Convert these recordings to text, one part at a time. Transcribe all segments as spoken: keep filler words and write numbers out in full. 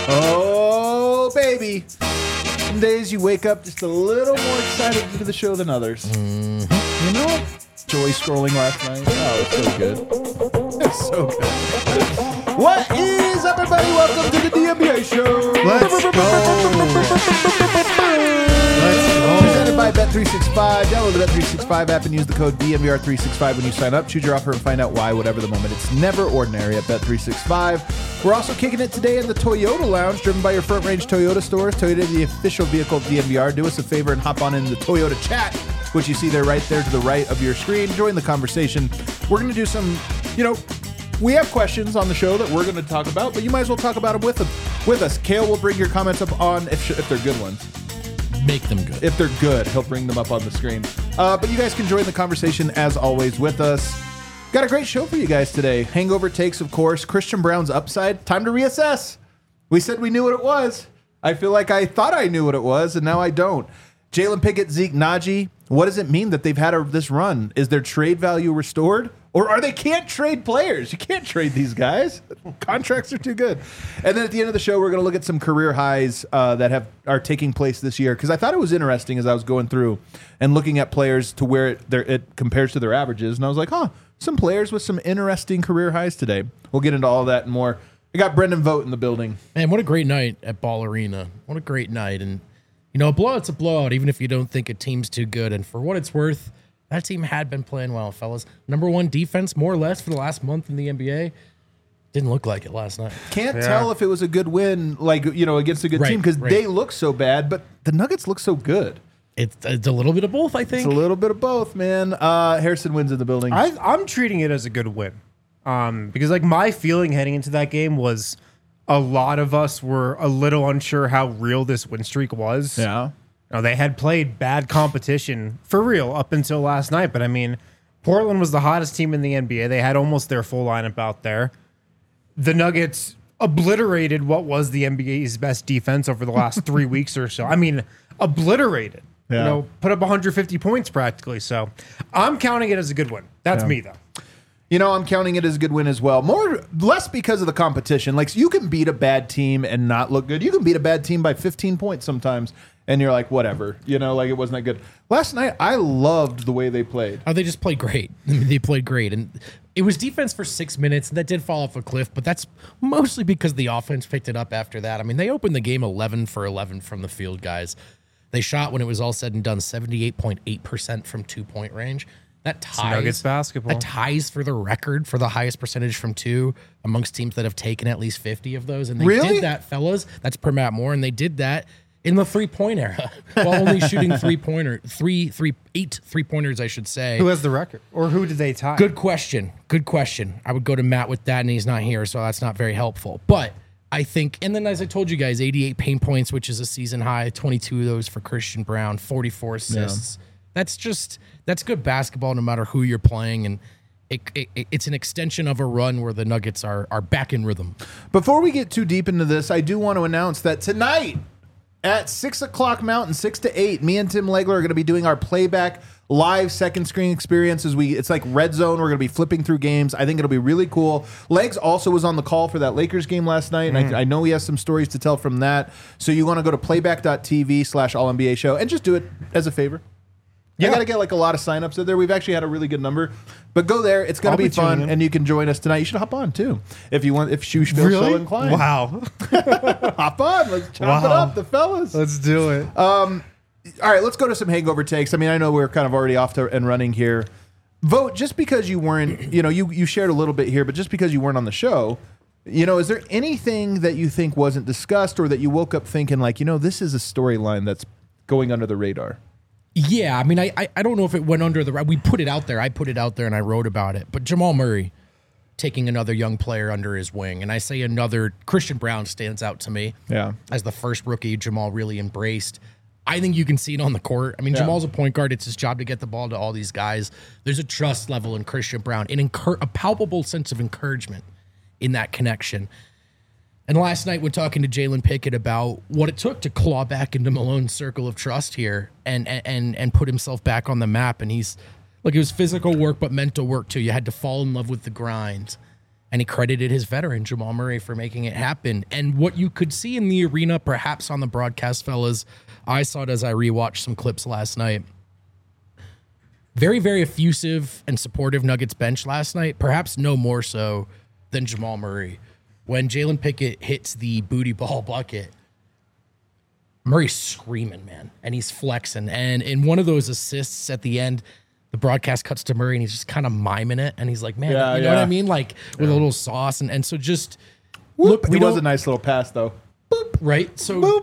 Oh, baby. Some days you wake up just a little more excited to do the show than others. Mm-hmm. You know, joy scrolling last night. Oh, it's so good. It's so good. What is up, everybody? Welcome to the D M B A show. Let's go. Let's go. Presented by Bet three sixty-five. Download the Bet three sixty-five app and use the code D M B R three sixty-five when you sign up. Choose your offer and find out why, whatever the moment. It's never ordinary at Bet three sixty-five. We're also kicking it today in the Toyota Lounge, driven by your Front Range Toyota stores. Toyota, the official vehicle of D M B R. Do us a favor and hop on in the Toyota chat, which you see there right there to the right of your screen. Join the conversation. We're going to do some, you know, we have questions on the show that we're going to talk about, but you might as well talk about them with them, with us. Kale will bring your comments up on, if, if they're good ones. Make them good. If they're good, he'll bring them up on the screen. Uh, but you guys can join the conversation as always with us. Got a great show for you guys today. Hangover takes, of course. Christian Braun's upside. Time to reassess. We said we knew what it was. I feel like I thought I knew what it was, and now I don't. Jalen Pickett, Zeke Nnaji. What does it mean that they've had a, this run? Is their trade value restored? Or are they can't trade players? You can't trade these guys. Contracts are too good. And then at the end of the show, we're going to look at some career highs uh, that have are taking place this year. Because I thought it was interesting as I was going through and looking at players to where it, it compares to their averages. And I was like, huh, some players with some interesting career highs today. We'll get into all that and more. I got Brendan Vogt in the building. Man, what a great night at Ball Arena. What a great night. And, you know, a blowout's a blowout, even if you don't think a team's too good. And for what it's worth, that team had been playing well, fellas. Number one defense, more or less, for the last month in the N B A. Didn't look like it last night. Can't Yeah. tell if it was a good win, like, you know, against a good Right, team because right. they look so bad, but the Nuggets look so good. It's, it's a little bit of both, I think. It's a little bit of both, man. Uh, Harrison wins in the building. I, I'm treating it as a good win, um, because like my feeling heading into that game was a lot of us were a little unsure how real this win streak was. yeah. You know, they had played bad competition for real up until last night, but I mean, Portland was the hottest team in the N B A. They had almost their full lineup out there. The Nuggets obliterated what was the N B A's best defense over the last three weeks or so. I mean, obliterated. Yeah. You know, put up one hundred fifty points practically. So I'm counting it as a good win. That's Yeah. me, though. You know, I'm counting it as a good win as well. More, less because of the competition. Like, you can beat a bad team and not look good. You can beat a bad team by fifteen points sometimes, and you're like, whatever. You know, like, it wasn't that good. Last night, I loved the way they played. Oh, they just played great. I mean, they played great. And it was defense for six minutes, and that did fall off a cliff, but that's mostly because the offense picked it up after that. I mean, they opened the game eleven for eleven from the field, guys. They shot, when it was all said and done, seventy-eight point eight percent from two-point range. That ties, Nuggets basketball. That ties for the record for the highest percentage from two amongst teams that have taken at least fifty of those. And they Really? did that, fellas. That's per Matt Moore, and they did that in the three-point era while only shooting three-pointer, three, three, eight three-pointers, I should say. Who has the record? Or who did they tie? Good question. Good question. I would go to Matt with that, and he's not here, so that's not very helpful. But I think, and then as I told you guys, eighty-eight paint points, which is a season high, twenty-two of those for Christian Braun, forty-four assists. That's just, that's good basketball no matter who you're playing, and it, it, it's an extension of a run where the Nuggets are are back in rhythm. Before we get too deep into this, I do want to announce that tonight at six o'clock Mountain, six to eight, me and Tim Legler are going to be doing our playback live second screen experience. As we, it's like Red Zone. We're going to be flipping through games. I think it'll be really cool. Legs also was on the call for that Lakers game last night, and I, I know he has some stories to tell from that. So you want to go to playback.tv slash all N B A show and just do it as a favor. Yeah. I got to get like a lot of signups in there. We've actually had a really good number, but go there. It's going I'll to be, be tuning fun, in. and you can join us tonight. You should hop on too if you want. If you feel Really? so inclined, Wow. hop on. Let's chop it Wow. up, the fellas. Let's do it. All right, let's go to some hangover takes. I mean, I know we're kind of already off to and running here. Vote just because you weren't. You know, you you shared a little bit here, but just because you weren't on the show. You know, is there anything that you think wasn't discussed, or that you woke up thinking like, you know, this is a storyline that's going under the radar? Yeah, I mean, I, I I don't know if it went under the. We put it out there. I put it out there, and I wrote about it. But Jamal Murray taking another young player under his wing, and I say another. Christian Braun stands out to me. Yeah. As the first rookie Jamal really embraced. I think you can see it on the court. I mean, Yeah. Jamal's a point guard. It's his job to get the ball to all these guys. There's a trust level in Christian Braun, an incur- a palpable sense of encouragement in that connection. And last night, when talking to Jalen Pickett about what it took to claw back into Malone's circle of trust here and and and put himself back on the map, and he's look, it was physical work, but mental work too. You had to fall in love with the grind. And he credited his veteran, Jamal Murray, for making it happen. And what you could see in the arena, perhaps on the broadcast, fellas, I saw it as I rewatched some clips last night. Very, very effusive and supportive Nuggets bench last night, perhaps no more so than Jamal Murray. When Jalen Pickett hits the booty ball bucket, Murray's screaming, man, and he's flexing. And in one of those assists at the end, the broadcast cuts to Murray and he's just kind of miming it. And he's like, man, Yeah, you know yeah. what I mean? Like with a little sauce. And, and so just, Whoop. look, we It was don't, a nice little pass, though. right? So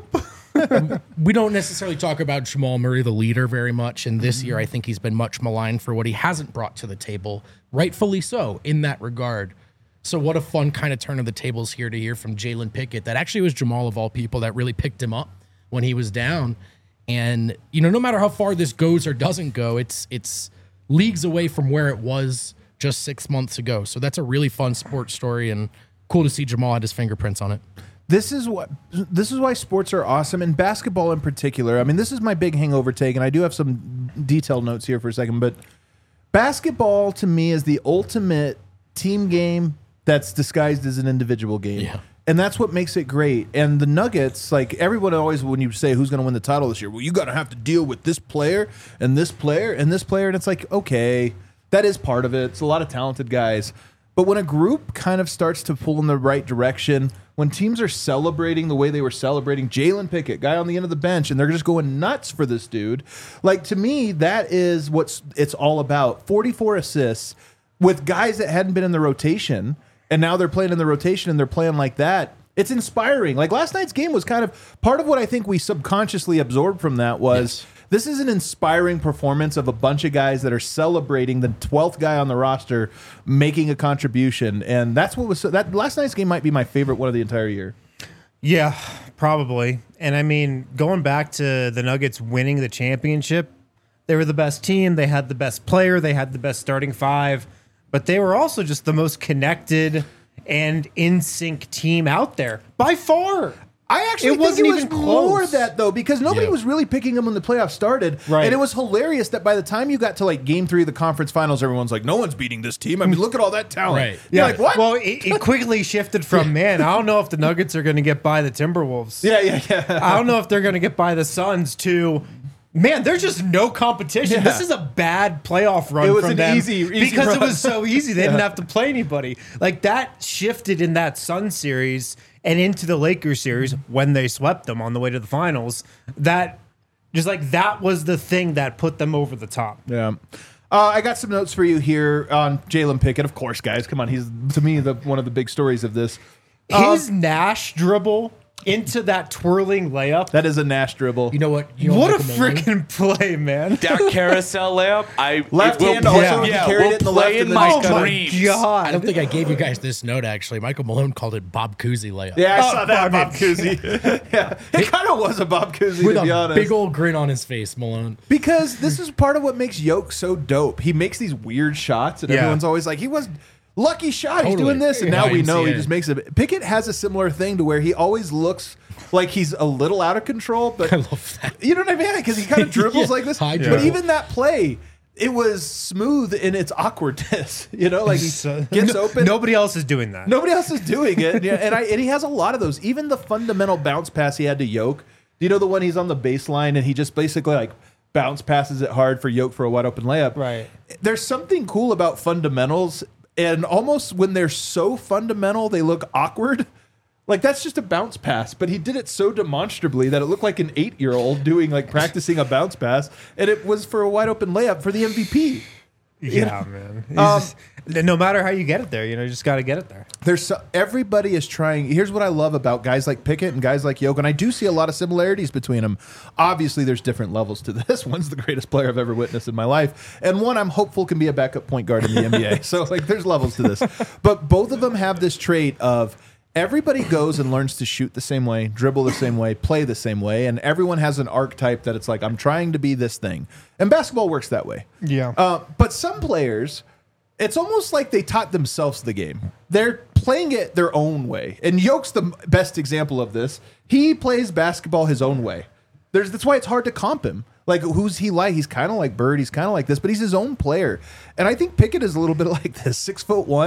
we don't necessarily talk about Jamal Murray, the leader, very much. And this year, I think he's been much maligned for what he hasn't brought to the table, rightfully so, in that regard. So what a fun kind of turn of the tables here to hear from Jalen Pickett. That actually was Jamal, of all people, that really picked him up when he was down. And, you know, no matter how far this goes or doesn't go, it's it's leagues away from where it was just six months ago. So that's a really fun sports story and cool to see Jamal had his fingerprints on it. This is what this is why sports are awesome, and basketball in particular. I mean, this is my big hangover take, and I do have some detailed notes here for a second, but basketball to me is the ultimate team game that's disguised as an individual game. Yeah. And that's what makes it great. And the Nuggets, like everyone always, when you say who's going to win the title this year, well, you got to have to deal with this player and this player and this player. And it's like, okay, that is part of it. It's a lot of talented guys. But when a group kind of starts to pull in the right direction, when teams are celebrating the way they were celebrating Jalen Pickett, guy on the end of the bench, and they're just going nuts for this dude, like to me, that is what it's all about. forty-four assists with guys that hadn't been in the rotation. And now they're playing in the rotation and they're playing like that. It's inspiring. Like last night's game was kind of part of what I think we subconsciously absorbed from that was Yes. this is an inspiring performance of a bunch of guys that are celebrating the twelfth guy on the roster making a contribution. And that's what was so, that last night's game might be my favorite one of the entire year. Yeah, probably. And I mean, going back to the Nuggets winning the championship, they were the best team. They had the best player. They had the best starting five. But they were also just the most connected and in sync team out there by far. I actually It think wasn't it was even more close. that though, because nobody Yeah. was really picking them when the playoffs started, Right. and it was hilarious that by the time you got to like Game Three of the conference finals, everyone's like, "No one's beating this team." I mean, look at all that talent. Right. You're like, what? Well, it, it quickly shifted from, man, I don't know if the Nuggets are going to get by the Timberwolves. yeah, yeah, yeah. I don't know if they're going to get by the Suns to, man, there's just no competition. Yeah. This is a bad playoff run It was from an them easy- easy because run. it was so easy. They didn't have to play anybody. Like that shifted in that Suns series and into the Lakers series when they swept them on the way to the finals. That just like that was the thing that put them over the top. Yeah. Uh, I got some notes for you here on Jalen Pickett. Of course, guys, come on. He's, to me, the one of the big stories of this. His Nash dribble into that twirling layup. That is a Nash dribble. You know what? You know What a Michael Malone? freaking play, man. That carousel layup, I Left it will hand also, play- he yeah, carried will it in the play left in and then my just got it. dreams. God. I don't think I gave you guys this note, actually. Michael Malone called it Bob Cousy layup. Yeah, I Oh, saw that, Bob Bob Cousy. yeah, it kind of was a Bob Cousy, With to be a honest. big old grin on his face, Malone. Because this is part of what makes Yoke so dope. He makes these weird shots, and Yeah. everyone's always like, he was lucky shot. He's Totally. doing this, and Yeah, now we N C A A. know he just makes it. Pickett has a similar thing to where he always looks like he's a little out of control, but I love that. you know what I mean? Because he kind of dribbles Yeah, like this. high But dribble. even that play, it was smooth in its awkwardness. You know, like he So- gets no- open. Nobody else is doing that. Nobody else is doing it. Yeah, and I and he has a lot of those. Even the fundamental bounce pass he had to Yoke. Do you know the one he's on the baseline and he just basically like bounce passes it hard for Yoke for a wide open layup? Right. There's something cool about fundamentals, and almost when they're so fundamental, they look awkward. Like that's just a bounce pass, but he did it so demonstrably that it looked like an eight-year-old doing like practicing a bounce pass, and it was for a wide open layup for the M V P. Yeah, man. He's Um, just- no matter how you get it there, you know, you just got to get it there. There's so, everybody is trying. Here's what I love about guys like Pickett and guys like Yoke, and I do see a lot of similarities between them. Obviously, there's different levels to this. One's the greatest player I've ever witnessed in my life, and one I'm hopeful can be a backup point guard in the N B A. So like, there's levels to this, but both of them have this trait of everybody goes and learns to shoot the same way, dribble the same way, play the same way, and everyone has an archetype that it's like I'm trying to be this thing, and basketball works that way. Yeah. Uh, but some players, it's almost like they taught themselves the game. They're playing it their own way. And Yoke's the best example of this. He plays basketball his own way. There's, that's why it's hard to comp him. Like, who's he like? He's kind of like Bird. He's kind of like this, but he's his own player. And I think Pickett is a little bit like this. Six foot one.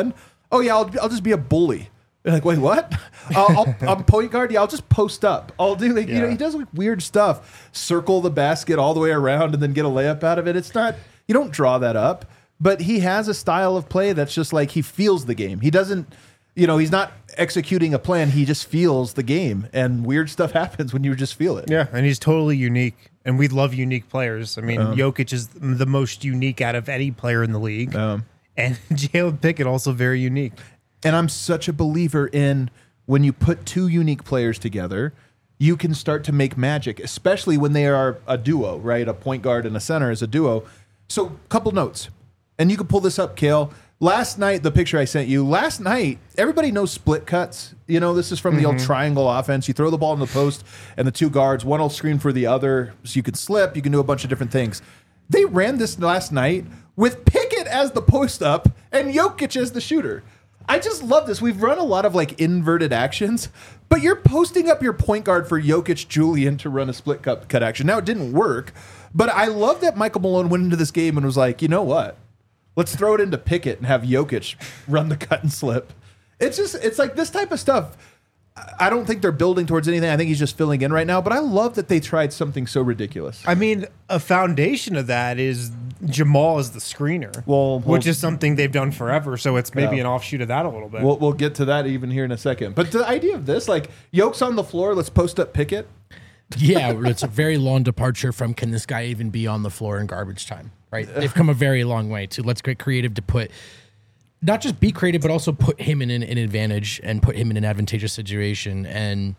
Oh yeah, I'll, I'll just be a bully. You're like, wait, what? I'll, I'll, I'm point guard. Yeah, I'll just post up. I'll do like, you know, he does like weird stuff. Circle the basket all the way around and then get a layup out of it. It's not, you don't draw that up, but he has a style of play that's just like he feels the game. He doesn't, you know, he's not executing a plan. He just feels the game, and weird stuff happens when you just feel it. Yeah, and he's totally unique, and we love unique players. I mean, Um, Jokic is the most unique out of any player in the league, Um, and Jalen Pickett also very unique. And I'm such a believer in when you put two unique players together, you can start to make magic, especially when they are a duo, right? A point guard and a center is a duo. So, couple notes, and you can pull this up, Kale. Last night, the picture I sent you, last night, everybody knows split cuts. You know, this is from the old triangle offense. You throw the ball in the post, and the two guards, one will screen for the other, so you can slip, you can do a bunch of different things. They ran this last night with Pickett as the post up and Jokic as the shooter. I just love this. We've run a lot of like inverted actions, but you're posting up your point guard for Jokic Julian to run a split cut, cut action. Now, it didn't work, but I love that Michael Malone went into this game and was like, you know what? Let's throw it into Pickett and have Jokic run the cut and slip. It's just, it's like this type of stuff. I don't think they're building towards anything. I think he's just filling in right now, but I love that they tried something so ridiculous. I mean, a foundation of that is Jamal as the screener, Well, which we'll- is something they've done forever. So it's maybe Yeah. an offshoot of that a little bit. We'll, we'll get to that even here in a second. But the idea of this, like, Yoke's on the floor, let's post up Pickett. Yeah, it's a very long departure from can this guy even be on the floor in garbage time, right? They've come a very long way to let's get creative to put, not just be creative, but also put him in an, an advantage and put him in an advantageous situation. And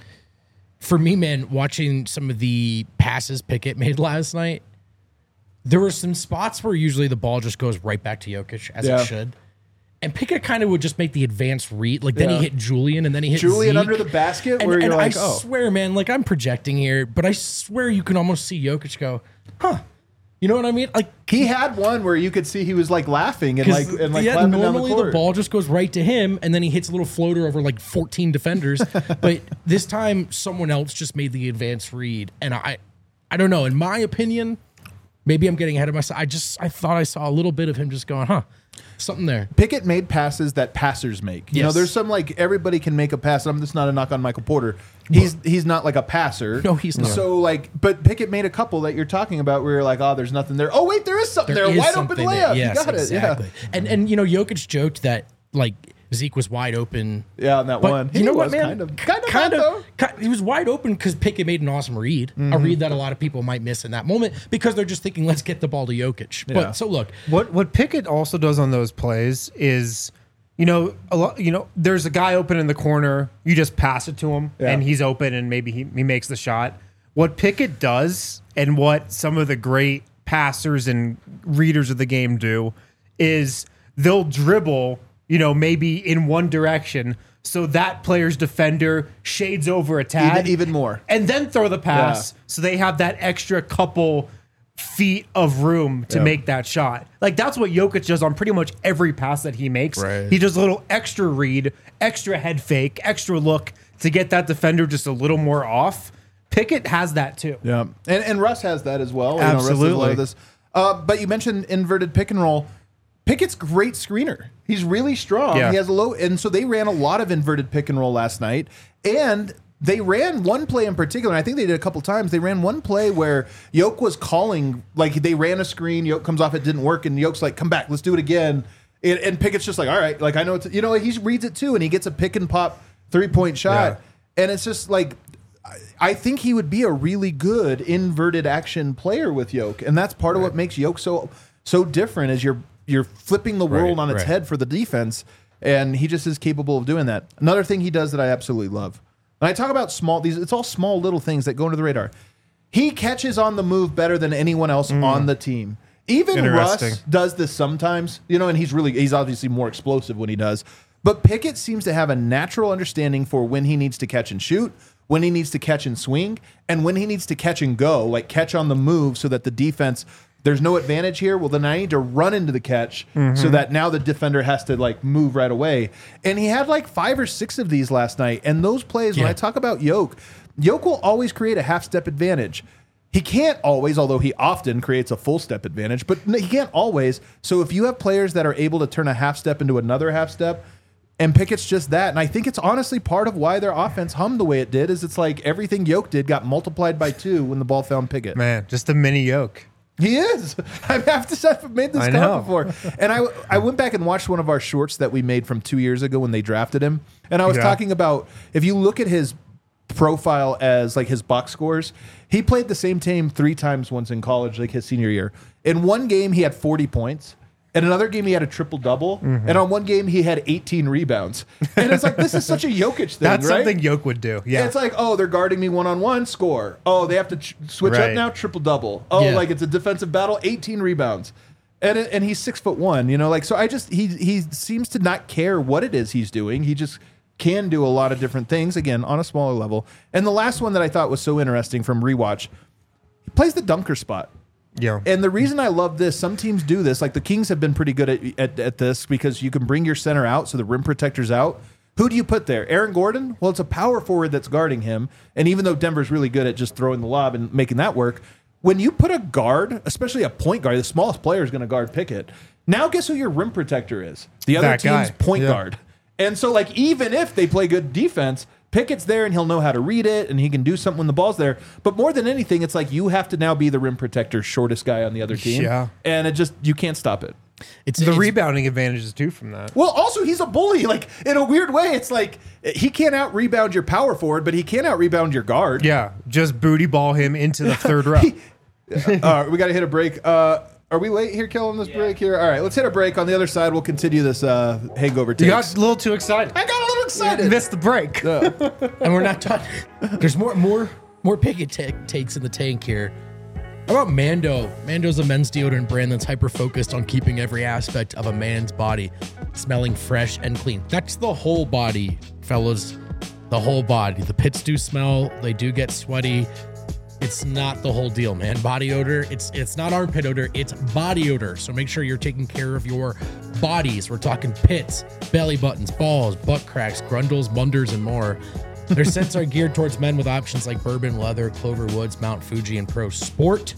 for me, man, watching some of the passes Pickett made last night, there were some spots where usually the ball just goes right back to Jokic, as Yeah. it should. And Pickett kind of would just make the advanced read. Like, then Yeah. he hit Julian, and then he hit Julian Zeke. under the basket, And, where and you're like, I oh. swear, man, like I'm projecting here, but I swear you can almost see Jokic go, huh? You know what I mean? Like, He had one where you could see he was like laughing and like and like yeah, clapping down the normally the, court. ball just goes right to him, and then he hits a little floater over like fourteen defenders. But this time, someone else just made the advanced read, and I, I don't know. In my opinion, maybe I'm getting ahead of myself. I just I thought I saw a little bit of him just going, huh, something there. Pickett made passes that passers make. You know, Yes. there's some like everybody can make a pass. I'm just not a knock on Michael Porter. He's he's not like a passer. No, he's not. So like, but Pickett made a couple that you're talking about where you're like, oh, there's nothing there. Oh wait, there is something there. There is Wide open something layup. there. Yes, you got exactly. it. Yeah. And and you know, Jokic joked that like Zeke was wide open. Yeah, on that But one. you He know was what, man? kind of kind of kind not, though. of. ki- He was wide open because Pickett made an awesome read, a read that a lot of people might miss in that moment because they're just thinking, let's get the ball to Jokic. Yeah. But so look, What what Pickett also does on those plays is, you know, a lot. You know, there's a guy open in the corner. You just pass it to him, Yeah. and he's open, and maybe he, he makes the shot. What Pickett does, and what some of the great passers and readers of the game do, is they'll dribble, you know, maybe in one direction, so that player's defender shades over a tad, Even, even more. and then throw the pass, Yeah. so they have that extra couple feet of room to Yeah. make that shot. Like that's what Jokic does on pretty much every pass that he makes. Right. He does a little extra read, extra head fake, extra look to get that defender just a little more off. Pickett has that too. Yeah, and and Russ has that as well. You know, Russ does a lot Absolutely. of this. Uh, but you mentioned inverted pick and roll. Pickett's great screener. He's really strong. Yeah. He has a low, and so they ran a lot of inverted pick and roll last night. And they ran one play in particular. And I think they did a couple times. They ran one play where Yoke was calling, like they ran a screen. Yoke comes off, it didn't work, and Yoke's like, "Come back, let's do it again." And, and Pickett's just like, "All right, like I know it's you know." He reads it too, and he gets a pick and pop three point shot, and it's just like. I think he would be a really good inverted action player with Yoke, and that's part of what makes Yoke so so different. Is you're you're flipping the world Right, on its right. head for the defense, and he just is capable of doing that. Another thing he does that I absolutely love. When I talk about small, these it's all small little things that go under the radar. He catches on the move better than anyone else on the team. Even Interesting. Russ does this sometimes, you know, and he's really he's obviously more explosive when he does. But Pickett seems to have a natural understanding for when he needs to catch and shoot, when he needs to catch and swing, and when he needs to catch and go, like catch on the move so that the defense, there's no advantage here. Well, then I need to run into the catch so that now the defender has to like move right away. And he had like five or six of these last night. And those plays, when Yeah. I talk about Yoke, Yoke will always create a half step advantage. he can't always, although he often creates a full step advantage, but he can't always. So if you have players that are able to turn a half step into another half step, and Pickett's just that, and I think it's honestly part of why their offense hummed the way it did, is it's like everything Yoke did got multiplied by two when the ball found Pickett. Man, just a mini Yoke. He is. I have to say, I've made this I comment know. before. And I, I went back and watched one of our shorts that we made from two years ago when they drafted him. And I was Yeah. talking about, if you look at his profile as like his box scores, he played the same team three times once in college, like his senior year. In one game, he had forty points. In another game, he had a triple double. Mm-hmm. And on one game, he had eighteen rebounds. And it's like, this is such a Jokic thing, That's right? something Yoke would do. Yeah. It's like, oh, they're guarding me one-on-one, score. Oh, they have to ch- switch up Right. now, triple-double. Oh, Yeah. like it's a defensive battle, eighteen rebounds. And it- and he's six foot one, you know, like, so I just, he he seems to not care what it is he's doing. He just can do a lot of different things, again, on a smaller level. And the last one that I thought was so interesting from rewatch, he plays the dunker spot. yeah. And the reason I love this, some teams do this, like the Kings have been pretty good at, at, at this because you can bring your center out so the rim protector's out. Who do you put there? Aaron Gordon? Well, it's a power forward that's guarding him. And even though Denver's really good at just throwing the lob and making that work, when you put a guard, especially a point guard, the smallest player is going to guard Pickett. Now guess who your rim protector is? The other That team's guy. point Yeah. guard. And so like even if they play good defense, Pickett's there and he'll know how to read it and he can do something when the ball's there. But more than anything, it's like you have to now be the rim protector, shortest guy on the other team. Yeah. And it just, you can't stop it. It's the it's, rebounding advantages too from that. Well, also he's a bully. Like in a weird way, it's like he can't out rebound your power forward, but he can out rebound your guard. Yeah, just booty ball him into the third row. All right, we got to hit a break. Uh, are we late here, killing this break here? All right, let's hit a break. On the other side, we'll continue this uh, hangover You got takes. a little too excited. I got a little excited. Missed the break. and we're not done. There's more, more, more Pickett ta- takes in the tank here. How about Mando? Mando's a men's deodorant brand that's hyper focused on keeping every aspect of a man's body smelling fresh and clean. That's the whole body, fellas. The whole body. The pits do smell. They do get sweaty. It's not the whole deal, man. Body odor, it's it's not armpit odor, it's body odor. So make sure you're taking care of your bodies. We're talking pits, belly buttons, balls, butt cracks, grundles, munders, and more. Their scents are geared towards men with options like bourbon, leather, Clover Woods, Mount Fuji, and Pro Sport.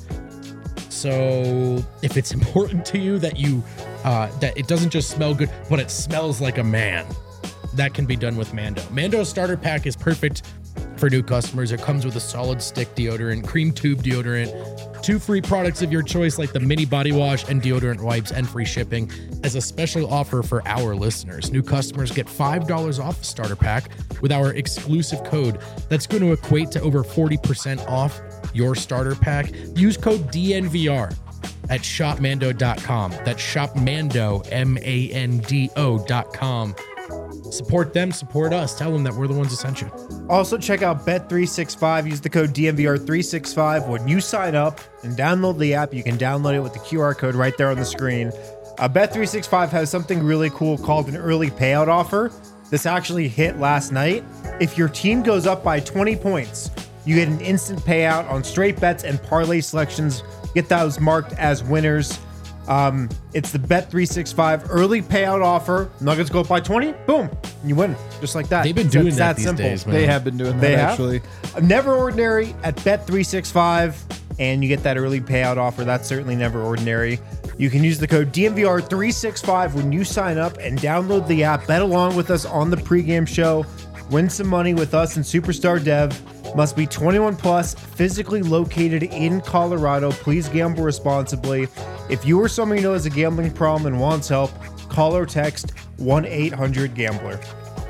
So if it's important to you that you uh, that it doesn't just smell good, but it smells like a man, that can be done with Mando. Mando's starter pack is perfect for new customers. It comes with a solid stick deodorant, cream tube deodorant, two free products of your choice like the mini body wash and deodorant wipes, and free shipping as a special offer for our listeners. New customers get five dollars off the starter pack with our exclusive code. That's going to equate to over forty percent off your starter pack. Use code D N V R at shop mando dot com. That's shopmando, M A N D O dot com. Support them, support us. Tell them that we're the ones that sent you. Also, check out Bet three sixty-five. Use the code D N V R three sixty-five when you sign up and download the app. You can download it with the Q R code right there on the screen. Uh, Bet three sixty-five has something really cool called an early payout offer. This actually hit last night. If your team goes up by twenty points, you get an instant payout on straight bets and parlay selections. Get those marked as winners. Um, it's the Bet three sixty-five early payout offer. Nuggets go up by twenty, boom, you win, just like that. They've been It's doing that that these days, man. They have been doing that They have? actually. Never Ordinary at Bet three sixty-five, and you get that early payout offer. That's certainly Never Ordinary. You can use the code D N V R three sixty-five when you sign up and download the app. Bet along with us on the pregame show. Win some money with us and Superstar Dev. Must be twenty-one plus, physically located in Colorado. Please gamble responsibly. If you or someone you know has a gambling problem and wants help, call or text one eight hundred gambler.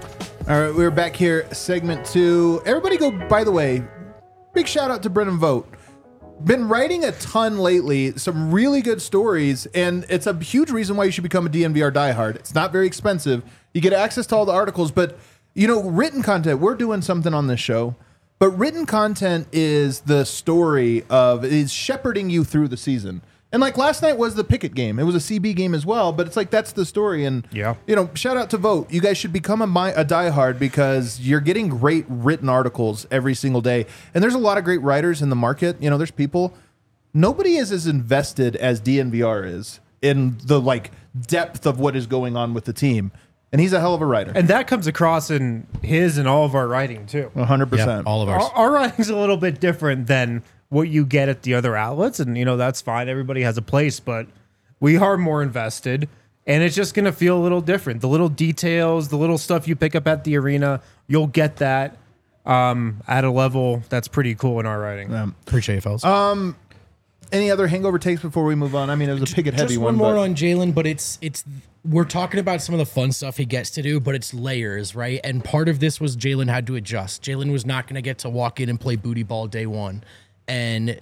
All right, we're back here, segment two. Everybody go, by the way, big shout out to Brennan Vogt. Been writing a ton lately, some really good stories, and it's a huge reason why you should become a D N V R diehard. It's not very expensive. You get access to all the articles, but, you know, written content, we're doing something on this show, but written content is the story of, is shepherding you through the season. And like last night was the Pickett game. It was a C B game as well, but it's like that's the story. And Yeah. you know, shout out to Vote. You guys should become a, mi- a diehard because you're getting great written articles every single day. And there's a lot of great writers in the market. You know, there's people. Nobody is as invested as D N V R is in the like depth of what is going on with the team. And he's a hell of a writer. And that comes across in his and all of our writing too. one hundred Yeah, percent. all of ours. Our, our writing's a little bit different than what you get at the other outlets, and you know that's fine. Everybody has a place, but we are more invested, and it's just gonna feel a little different. The little details, the little stuff you pick up at the arena, you'll get that um, at a level that's pretty cool in our writing. Appreciate it, fellas. Any other hangover takes before we move on? I mean, it was a picket heavy Just one. one more but- on Jalen, but it's it's we're talking about some of the fun stuff he gets to do, but it's layers, right? And part of this was Jalen had to adjust. Jalen was not going to get to walk in and play booty ball day one, and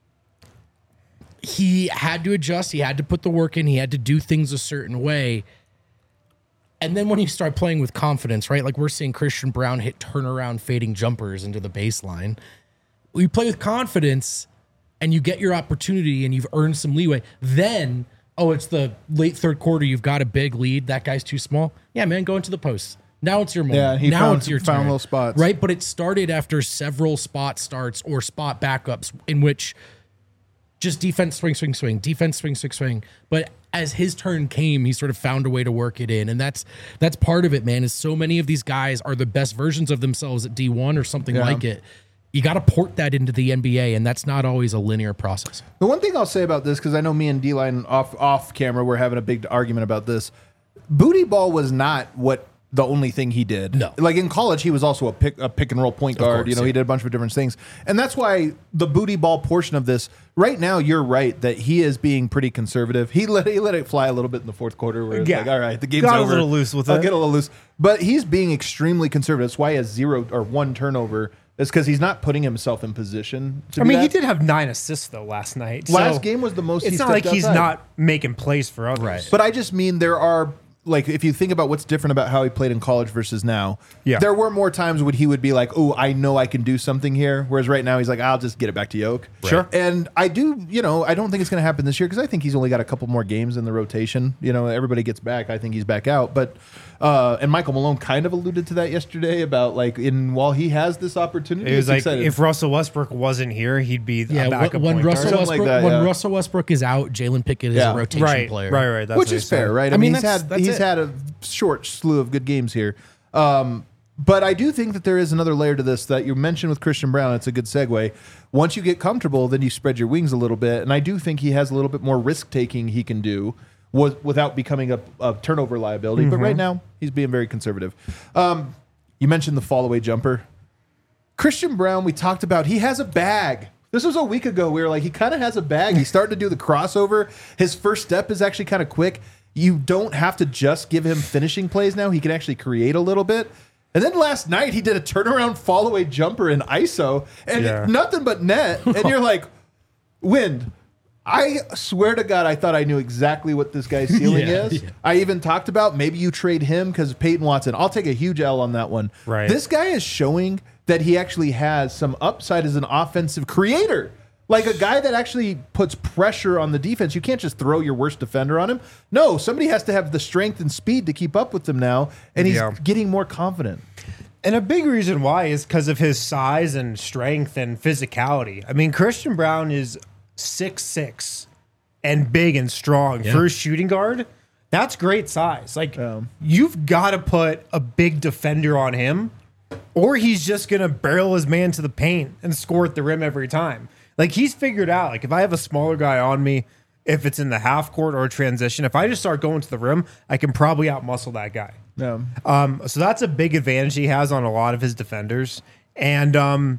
he had to adjust. He had to put the work in. He had to do things a certain way. And then when you start playing with confidence, right? Like we're seeing Christian Braun hit turnaround fading jumpers into the baseline. You play with confidence and you get your opportunity and you've earned some leeway. Then, oh, it's the late third quarter. You've got a big lead. That guy's too small. Yeah, man, go into the post. Now it's your moment. Yeah, he now found- it's your found turn. little spots. Right? But it started after several spot starts or spot backups in which just defense swing, swing, swing, defense swing, swing, swing. But as his turn came, he sort of found a way to work it in. And that's that's part of it, man, is so many of these guys are the best versions of themselves at D one or something Yeah. like it. You got to port that into the N B A, and that's not always a linear process. The one thing I'll say about this, because I know me and D-Line off off camera, we're having a big argument about this. Booty ball was not what the only thing he did. No. Like in college, he was also a pick a pick and roll point guard. course, you know, yeah. he did a bunch of different things. And that's why the booty ball portion of this, right now, you're right that he is being pretty conservative. He let he let it fly a little bit in the fourth quarter where it's Yeah. like, all right, the game's Got a over. little loose with I'll it. get a little loose. But he's being extremely conservative. That's why he has zero or one turnover. It's because he's not putting himself in position to I be mean, he that. did have nine assists though last night. Last so game was the most It's he not stepped like he's outside. not making plays for others. Right. But I just mean there are, like, if you think about what's different about how he played in college versus now, Yeah. there were more times when he would be like, oh, I know I can do something here. Whereas right now he's like, I'll just get it back to Yoke. Sure. And I do, you know, I don't think it's going to happen this year because I think he's only got a couple more games in the rotation. You know, everybody gets back. I think he's back out. But, uh, and Michael Malone kind of alluded to that yesterday about, like, in while he has this opportunity, It was it's like exciting. if Russell Westbrook wasn't here, he'd be Yeah, a backup when, when point Russell guard. Something like Westbrook that, when yeah. Russell Westbrook is out, Jalen Pickett is Yeah. a rotation right, player. right, right. That's which what is he said. fair, right? I, I mean, mean, he's that's- had that's he's it. had a short slew of good games here, um, but I do think that there is another layer to this that you mentioned with Christian Braun. It's a good segue. Once you get comfortable, then you spread your wings a little bit, and I do think he has a little bit more risk taking he can do with, without becoming a, a turnover liability. But right now, he's being very conservative. Um, you mentioned the fall away jumper. Christian Braun, we talked about, he has a bag. This was a week ago. We were like, he kind of has a bag. He's starting to do the crossover. His first step is actually kind of quick. You don't have to just give him finishing plays now. He can actually create a little bit. And then last night, he did a turnaround fall away jumper in I S O and Yeah. nothing but net. And you're like, Wind, I swear to God, I thought I knew exactly what this guy's ceiling Yeah, is. yeah. I even talked about maybe you trade him because Peyton Watson. I'll take a huge L on that one. Right. This guy is showing that he actually has some upside as an offensive creator. Like a guy that actually puts pressure on the defense. You can't just throw your worst defender on him. No, somebody has to have the strength and speed to keep up with them now. And he's Yeah. getting more confident. And a big reason why is because of his size and strength and physicality. I mean, Christian Braun is six six and big and strong. Yeah. For a shooting guard, that's great size. Like, Um, you've got to put a big defender on him, or he's just going to barrel his man to the paint and score at the rim every time. Like, he's figured out, like, if I have a smaller guy on me, if it's in the half court or transition, if I just start going to the rim, I can probably outmuscle that guy. Yeah. Um, so that's a big advantage he has on a lot of his defenders. And um,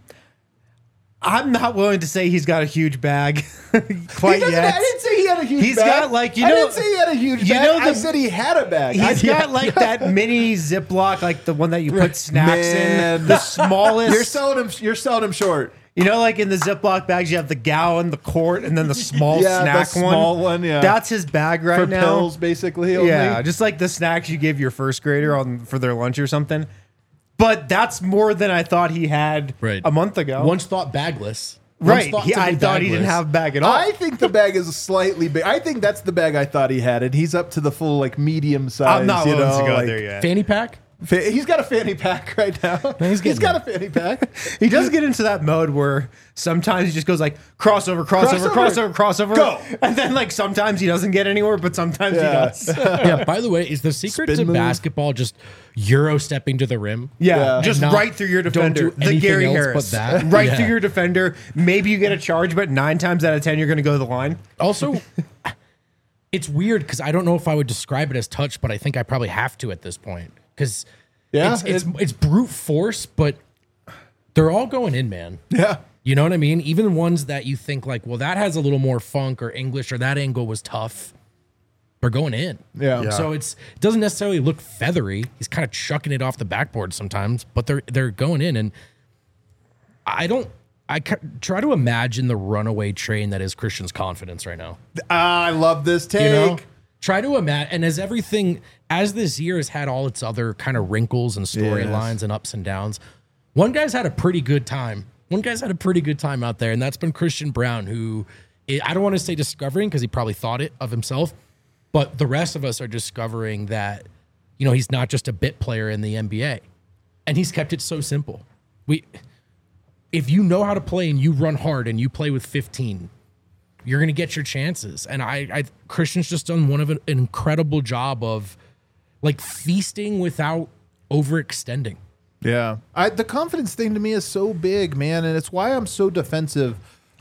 I'm not willing to say he's got a huge bag quite He doesn't- yet. I didn't say he had a huge He's bag. got, like, you I know- didn't say he had a huge you bag. know I the- said he had a bag. He's I- got like that mini Ziploc, like the one that you put snacks Man. in. The smallest. You're selling him. You're selling him short. You know, like in the Ziploc bags, you have the gallon, the quart, and then the small Yeah, the snack small one, yeah. That's his bag right For now. pills, basically. Only. Yeah, just like the snacks you give your first grader on for their lunch or something. But that's more than I thought he had Right. a month ago. Once thought bagless. Once right. thought He, to I be thought he didn't bagless. have a bag at all. I think the bag is slightly big. I think that's the bag I thought he had, and he's up to the full like medium size. I'm not you willing know, to go like- there yet. fanny pack. He's got a fanny pack right now. He's he's got there. a fanny pack. He does get into that mode where sometimes he just goes like crossover, crossover, Crossover. crossover, crossover, Go. and then like sometimes he doesn't get anywhere, but sometimes he Yeah. does. Yeah, by the way, is the secret Spin to move. basketball just Euro stepping to the rim? Yeah, Yeah. just And not- right through your don't defender. do The anything Gary else Harris. but that. Right Yeah. through your defender. Maybe you get a charge, but nine times out of ten, you're going to go to the line. Also, it's weird because I don't know if I would describe it as touch, but I think I probably have to at this point because Yeah, it's, it's, it- it's brute force, but they're all going in, man. Yeah. You know what I mean? Even ones that you think like, well, that has a little more funk or English or that angle was tough. They're going in. Yeah. Yeah. So it's it doesn't necessarily look feathery. He's kind of chucking it off the backboard sometimes, but they're they're going in. And I don't. I ca- try to imagine the runaway train that is Christian's confidence right now. I love this take. You know, try to imagine. And as everything, as this year has had all its other kind of wrinkles and storylines Yes. and ups and downs, one guy's had a pretty good time. One guy's had a pretty good time out there, and that's been Christian Braun, who I I don't want to say discovering because he probably thought it of himself, but the rest of us are discovering that, you know, he's not just a bit player in the N B A, and he's kept it so simple. We, if you know how to play and you run hard and you play with fifteen, you're going to get your chances. And I, I, Christian's just done one of an, an incredible job of like feasting without overextending. Yeah. I, the confidence thing to me is so big, man. And it's why I'm so defensive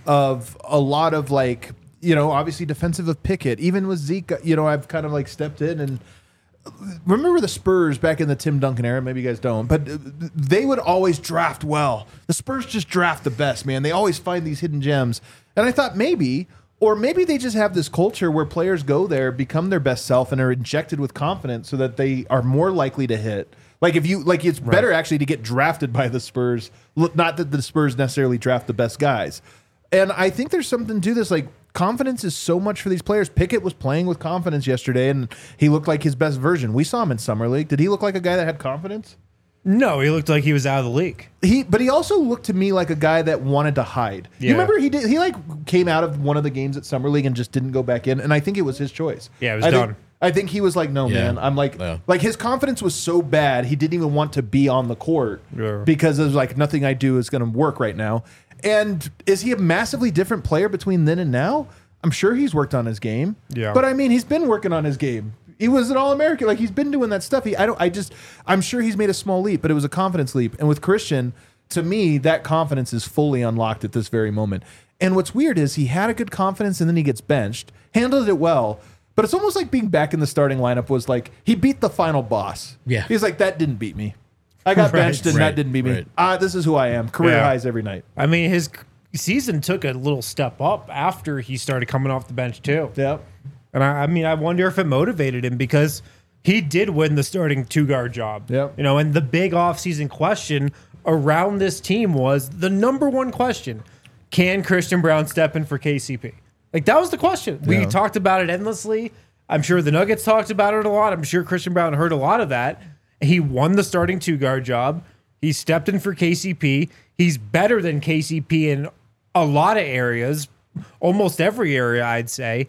of a lot of like, you know, obviously defensive of Pickett. Even with Zeke, you know, I've kind of like stepped in and remember the Spurs back in the Tim Duncan era. Maybe you guys don't, but they would always draft well. The Spurs just draft the best, man. They always find these hidden gems. And I thought maybe, or maybe they just have this culture where players go there, become their best self, and are injected with confidence so that they are more likely to hit. Like if you like, it's better actually to get drafted by the Spurs. Look, not that the Spurs necessarily draft the best guys. And I think there's something to this. Like confidence is so much for these players. Pickett was playing with confidence yesterday, and he looked like his best version. We saw him in summer league. Did he look like a guy that had confidence? No, he looked like he was out of the league. He, but he also looked to me like a guy that wanted to hide. You Yeah. remember he did. He like came out of one of the games at summer league and just didn't go back in. And I think it was his choice. Yeah, it was I done. Think, I think he was like, no, Yeah. man. I'm like, Yeah. like his confidence was so bad he didn't even want to be on the court Yeah. because it was like nothing I do is going to work right now. And is he a massively different player between then and now? I'm sure he's worked on his game. Yeah. But I mean, he's been working on his game. He was an All-American. Like he's been doing that stuff. He, I don't. I just. I'm sure he's made a small leap, but it was a confidence leap. And with Christian, to me, that confidence is fully unlocked at this very moment. And what's weird is he had a good confidence, and then he gets benched, handled it well. But it's almost like being back in the starting lineup was like he beat the final boss. Yeah. He's like, that didn't beat me. I got Right. benched, and Right. that didn't beat me. Right. Ah, this is who I am. Career Yeah. highs every night. I mean, his season took a little step up after he started coming off the bench too. Yep. And I, I mean, I wonder if it motivated him because he did win the starting two guard job. Yep. You know, and the big offseason question around this team was the number one question: can Christian Braun step in for K C P? Like that was the question. We Yeah. talked about it endlessly. I'm sure the Nuggets talked about it a lot. I'm sure Christian Braun heard a lot of that. He won the starting two guard job. He stepped in for K C P. He's better than K C P in a lot of areas, almost every area, I'd say.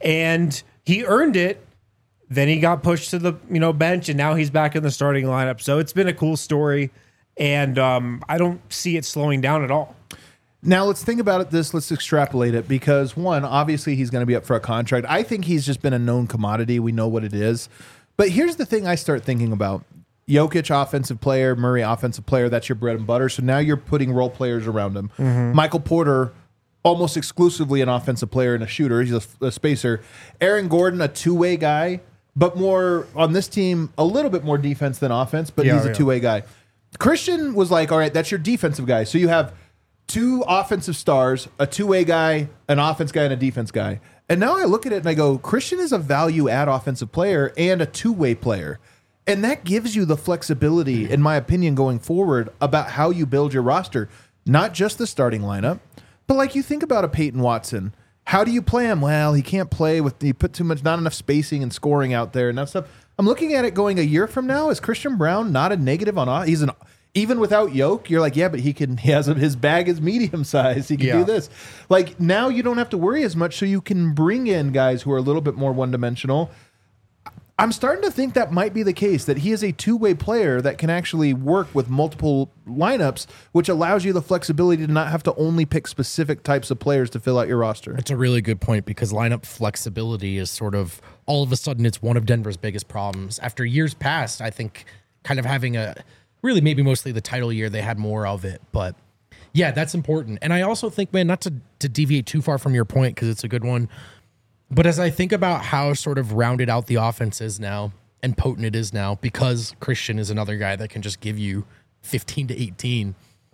And he earned it. Then he got pushed to the you know bench, and now he's back in the starting lineup. So it's been a cool story, and um, I don't see it slowing down at all. Now let's think about it. This let's extrapolate it because one, obviously he's going to be up for a contract. I think he's just been a known commodity. We know what it is. But here's the thing: I start thinking about Jokic, offensive player, Murray, offensive player. That's your bread and butter. So now you're putting role players around him. Michael Porter, almost exclusively an offensive player and a shooter. He's a, a spacer. Aaron Gordon, a two-way guy, but more on this team, a little bit more defense than offense. But Yeah, he's a yeah. two-way guy. Christian was like, all right, that's your defensive guy. So you have two offensive stars, a two-way guy, an offense guy, and a defense guy. And now I look at it and I go, Christian is a value-add offensive player and a two-way player. And that gives you the flexibility, in my opinion, going forward about how you build your roster. Not just the starting lineup, but like you think about a Peyton Watson. How do you play him? Well, he can't play with, you put too much, not enough spacing and scoring out there and that stuff. I'm looking at it going a year from now, is Christian Braun not a negative on, off- he's an, even without Yoke, you're like, yeah, but he can, he has a, his bag is medium size. He can Yeah. do this. Like now you don't have to worry as much. So you can bring in guys who are a little bit more one dimensional. I'm starting to think that might be the case, that he is a two-way player that can actually work with multiple lineups, which allows you the flexibility to not have to only pick specific types of players to fill out your roster. It's a really good point because lineup flexibility is sort of all of a sudden it's one of Denver's biggest problems. After years past, I think kind of having a really maybe mostly the title year, they had more of it. But yeah, that's important. And I also think, man, not to, to deviate too far from your point because it's a good one. But as I think about how sort of rounded out the offense is now and potent it is now, because Christian is another guy that can just give you fifteen to eighteen,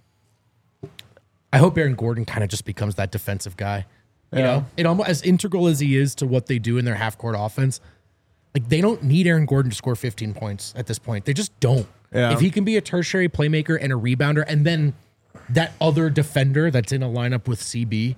I hope Aaron Gordon kind of just becomes that defensive guy. You Yeah. know, it almost as integral as he is to what they do in their half court offense. Like they don't need Aaron Gordon to score fifteen points at this point. They just don't. Yeah. If he can be a tertiary playmaker and a rebounder, and then that other defender that's in a lineup with C B.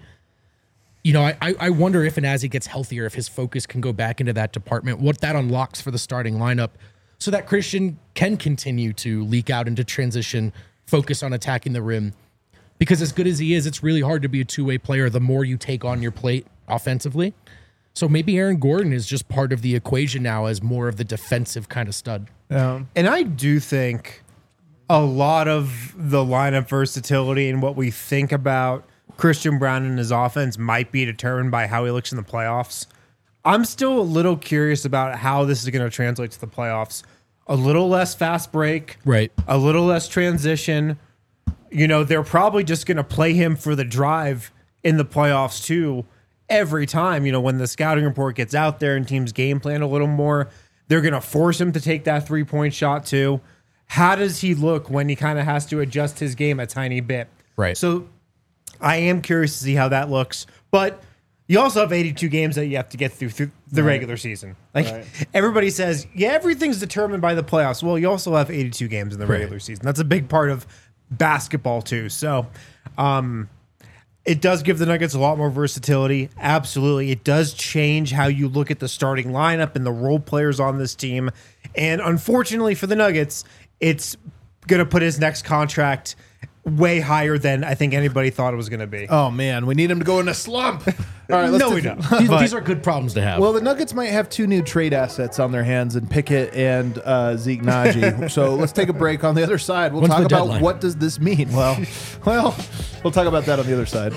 You know, I, I wonder if and as he gets healthier, if his focus can go back into that department, what that unlocks for the starting lineup so that Christian can continue to leak out into transition, focus on attacking the rim. Because as good as he is, it's really hard to be a two-way player the more you take on your plate offensively. So maybe Aaron Gordon is just part of the equation now as more of the defensive kind of stud. Yeah. And I do think a lot of the lineup versatility and what we think about Christian Braun and his offense might be determined by how he looks in the playoffs. I'm still a little curious about how this is going to translate to the playoffs. A little less fast break, Right. a little less transition. You know, they're probably just going to play him for the drive in the playoffs too. Every time, you know, when the scouting report gets out there and teams game plan a little more, they're going to force him to take that three-point shot too. How does he look when he kind of has to adjust his game a tiny bit? Right. So I am curious to see how that looks. But you also have eighty-two games that you have to get through through the Right. regular season. Like Right. everybody says, yeah, everything's determined by the playoffs. Well, you also have eighty-two games in the Right. regular season. That's a big part of basketball too. So um, it does give the Nuggets a lot more versatility. Absolutely. It does change how you look at the starting lineup and the role players on this team. And unfortunately for the Nuggets, it's going to put his next contract way higher than I think anybody thought it was going to be. Oh, man. We need him to go in a slump. All right. Let's No, do- we don't. These, But- these are good problems to have. Well, the Nuggets might have two new trade assets on their hands in Pickett and uh, Zeke Naji. So let's take a break. On the other side, we'll When's talk the about deadline? what does this mean. Well, well, we'll talk about that on the other side.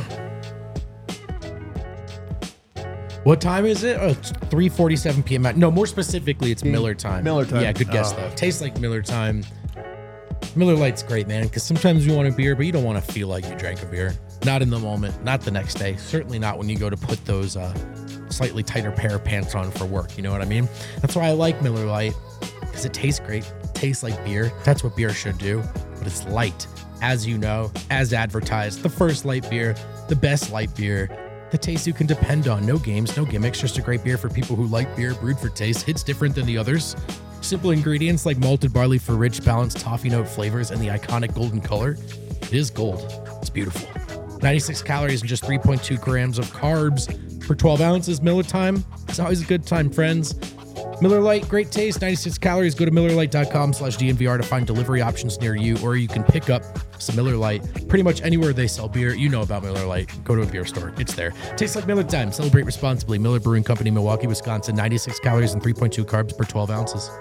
What time is it? Oh, it's three forty-seven p.m. at- No, more specifically, it's Miller time. Miller time. Yeah, good guess, Oh. though. Tastes like Miller time. Miller Lite's great, man, because sometimes you want a beer, but you don't want to feel like you drank a beer. Not in the moment, not the next day. Certainly not when you go to put those uh, slightly tighter pair of pants on for work. You know what I mean? That's why I like Miller Lite, because it tastes great. It tastes like beer. That's what beer should do, but it's light. As you know, as advertised, the first light beer, the best light beer, the taste you can depend on. No games, no gimmicks, just a great beer for people who like beer brewed for taste. Hits different than the others. Simple ingredients like malted barley for rich, balanced toffee note flavors and the iconic golden color. It is gold. It's beautiful. ninety-six calories and just three point two grams of carbs per twelve ounces. Miller time. It's always a good time, friends. Miller Lite, great taste, ninety-six calories. Go to millerlite.com slash DNVR to find delivery options near you, or you can pick up some Miller Lite pretty much anywhere they sell beer. You know about Miller Lite. Go to a beer store. It's there. Tastes like Miller time. Celebrate responsibly. Miller Brewing Company, Milwaukee, Wisconsin. ninety-six calories and three point two carbs per twelve ounces.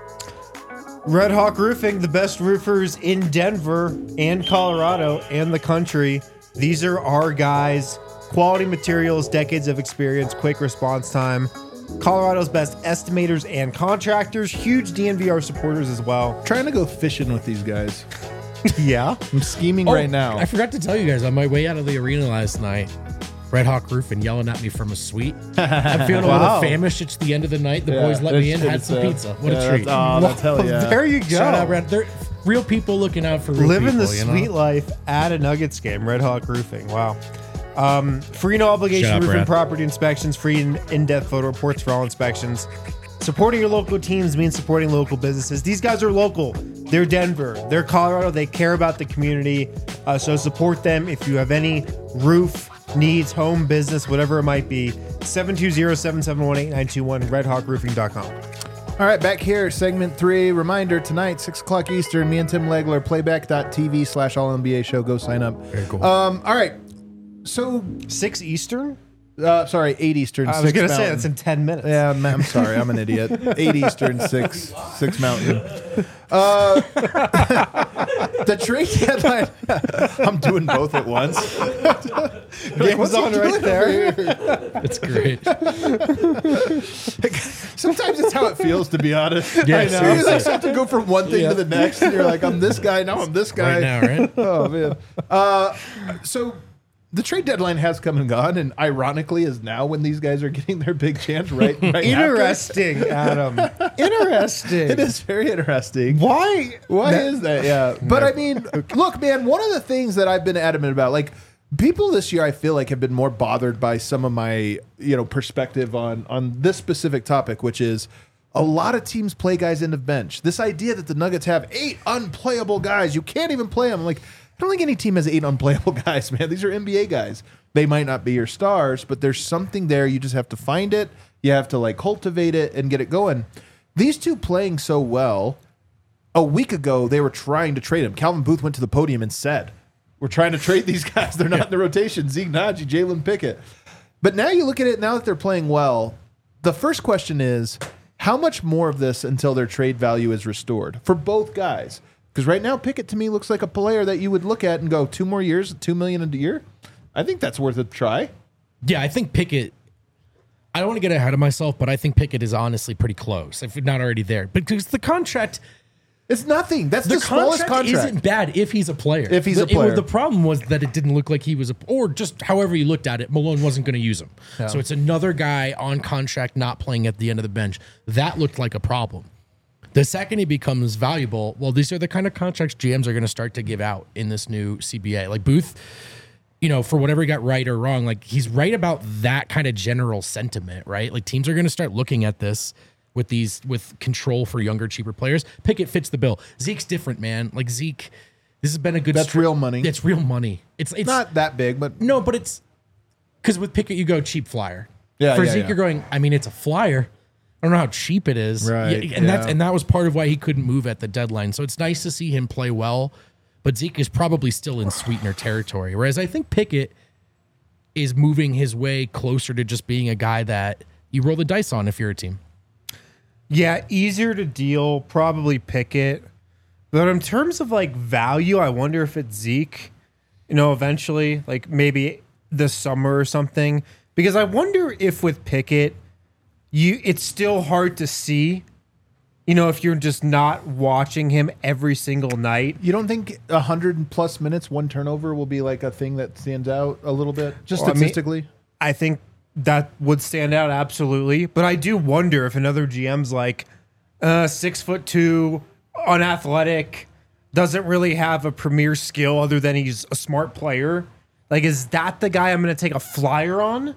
Red Hawk Roofing, the best roofers in Denver and Colorado and the country. These are our guys. Quality materials, decades of experience, quick response time. Colorado's best estimators and contractors. Huge D N V R supporters as well. Trying to go fishing with these guys. Yeah. I'm scheming right now. I forgot to tell you guys on my way out of the arena last night. Red Hawk Roofing yelling at me from a suite. I'm feeling a Wow. little famished. It's the end of the night. The Yeah, boys let me in, it's- had it's, some uh, pizza. What yeah, a treat. that's- oh, that's hell yeah. There you go. Shout out, Red. They're real people looking out for real Living people, the you know? sweet life at a Nuggets game. Red Hawk Roofing. Wow. Um, free no obligation Shout out, roofing Brad. property inspections, free in- in-depth photo reports for all inspections. Supporting your local teams means supporting local businesses. These guys are local. They're Denver. They're Colorado. They care about the community. Uh, so support them if you have any roof needs, home, business, whatever it might be. seven two zero, seven seven one, eight nine two one, red hawk roofing dot com. All right, back here, segment three. Reminder, tonight, six o'clock Eastern, me and Tim Legler, playback.tv slash all N B A show. Go sign up. Very cool. Um, all right. So six Eastern? Uh, sorry, eight Eastern. I six was going to say Mountain. that's in ten minutes. Yeah, I'm, I'm sorry. I'm an idiot. Eight Eastern, six six Mountain. Uh, the trade deadline. I'm doing both at once. Game's on right there. It's great. Sometimes it's how it feels, to be honest. Yeah, I know. You seriously. just have to go from one thing Yeah. to the next, and you're like, I'm this guy, now I'm this guy. Right now, right? Oh, man. Uh, so the trade deadline has come and gone, and ironically is now when these guys are getting their big chance right, right after. Interesting, Adam. Interesting. It is very interesting. Why? Why is that? Yeah. But I mean, look, man, one of the things that I've been adamant about, like, people this year, I feel like, have been more bothered by some of my, you know, perspective on on this specific topic, which is a lot of teams play guys end of bench. This idea that the Nuggets have eight unplayable guys, you can't even play them. Like, I don't think any team has eight unplayable guys, man. These are N B A guys. They might not be your stars, but there's something there. You just have to find it. You have to, like, cultivate it and get it going. These two playing so well, a week ago, they were trying to trade him. Calvin Booth went to the podium and said, we're trying to trade these guys. They're not in the rotation. Zeke Naji, Jalen Pickett. But now you look at it, now that they're playing well, the first question is, how much more of this until their trade value is restored for both guys? Because right now, Pickett to me looks like a player that you would look at and go, two more years, two million dollars a year? I think that's worth a try. Yeah, I think Pickett. I don't want to get ahead of myself, but I think Pickett is honestly pretty close, if not already there. Because the contract, It's nothing. That's the, the smallest contract, contract. isn't bad if he's a player. If he's the, a player. it- the problem was that it didn't look like he was a, or just however you looked at it, Malone wasn't going to use him. So it's another guy on contract not playing at the end of the bench. That looked like a problem. The second he becomes valuable, well, these are the kind of contracts G Ms are going to start to give out in this new C B A. Like Booth, you know, for whatever he got right or wrong, like he's right about that kind of general sentiment, right? Like teams are going to start looking at this with these, with control for younger, cheaper players. Pickett fits the bill. Zeke's different, man. Like Zeke, this has been a good. That's real money. It's real money. It's it's Not that big, but no, but it's because with Pickett you go cheap flyer. Yeah, For yeah, Zeke, yeah. you're going. I mean, it's a flyer. I don't know how cheap it is. Right, Yeah, and that's yeah. and that was part of why he couldn't move at the deadline. So it's nice to see him play well, but Zeke is probably still in sweetener territory. Whereas I think Pickett is moving his way closer to just being a guy that you roll the dice on if you're a team. Yeah, easier to deal, probably Pickett. But in terms of like value, I wonder if it's Zeke, you know, eventually, like maybe this summer or something. Because I wonder if with Pickett, you it's still hard to see, you know, if you're just not watching him every single night. you don't think one hundred plus minutes, one turnover will be like a thing that stands out a little bit, just Well, I mean- statistically? I think that would stand out absolutely. But I do wonder if another G M's like uh, six foot two, unathletic, doesn't really have a premier skill other than he's a smart player. Like, is that the guy I'm going to take a flyer on?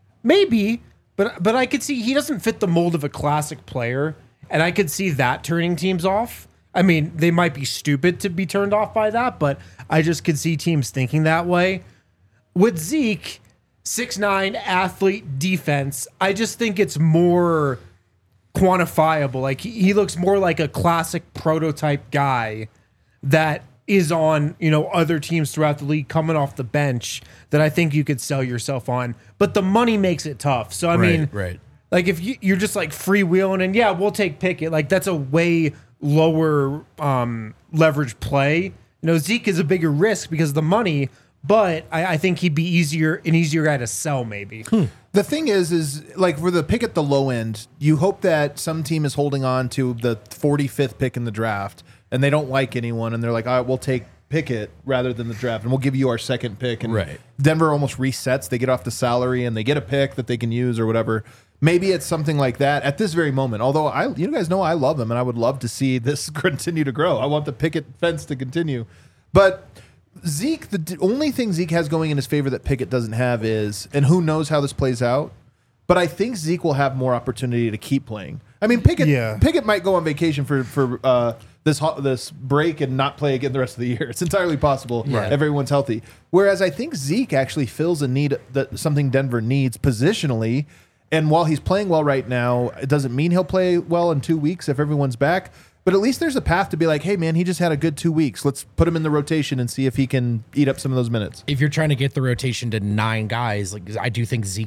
Maybe, but but I could see he doesn't fit the mold of a classic player, and I could see that turning teams off. I mean, they might be stupid to be turned off by that, but I just could see teams thinking that way. With Zeke, six nine athlete, defense, I just think it's more quantifiable. Like he, he looks more like a classic prototype guy that is on, you know, other teams throughout the league coming off the bench that I think you could sell yourself on. But the money makes it tough. So I Right, mean, right. like if you, you're just like freewheeling and yeah, we'll take Pickett. Like that's a way lower um, leverage play. You know, Zeke is a bigger risk because of the money, but I, I think he'd be easier an easier guy to sell maybe. The thing is, is like for the pick at the low end, you hope that some team is holding on to the forty-fifth pick in the draft and they don't like anyone and they're like, all right, we'll take Pickett rather than the draft and we'll give you our second pick. And Right. Denver almost resets. They get off the salary and they get a pick that they can use or whatever. Maybe it's something like that at this very moment. Although I, you guys know I love them and I would love to see this continue to grow. I want the Pickett fence to continue. But Zeke, the d- only thing Zeke has going in his favor that Pickett doesn't have is, and who knows how this plays out, but I think Zeke will have more opportunity to keep playing. I mean, Pickett, Yeah. Pickett might go on vacation for for uh, this ho- this break and not play again the rest of the year. It's entirely possible if everyone's healthy. Whereas I think Zeke actually fills a need that something Denver needs positionally. And while he's playing well right now, it doesn't mean he'll play well in two weeks if everyone's back. But at least there's a path to be like, hey, man, he just had a good two weeks. Let's put him in the rotation and see if he can eat up some of those minutes. If you're trying to get the rotation to nine guys, like I do think Zeke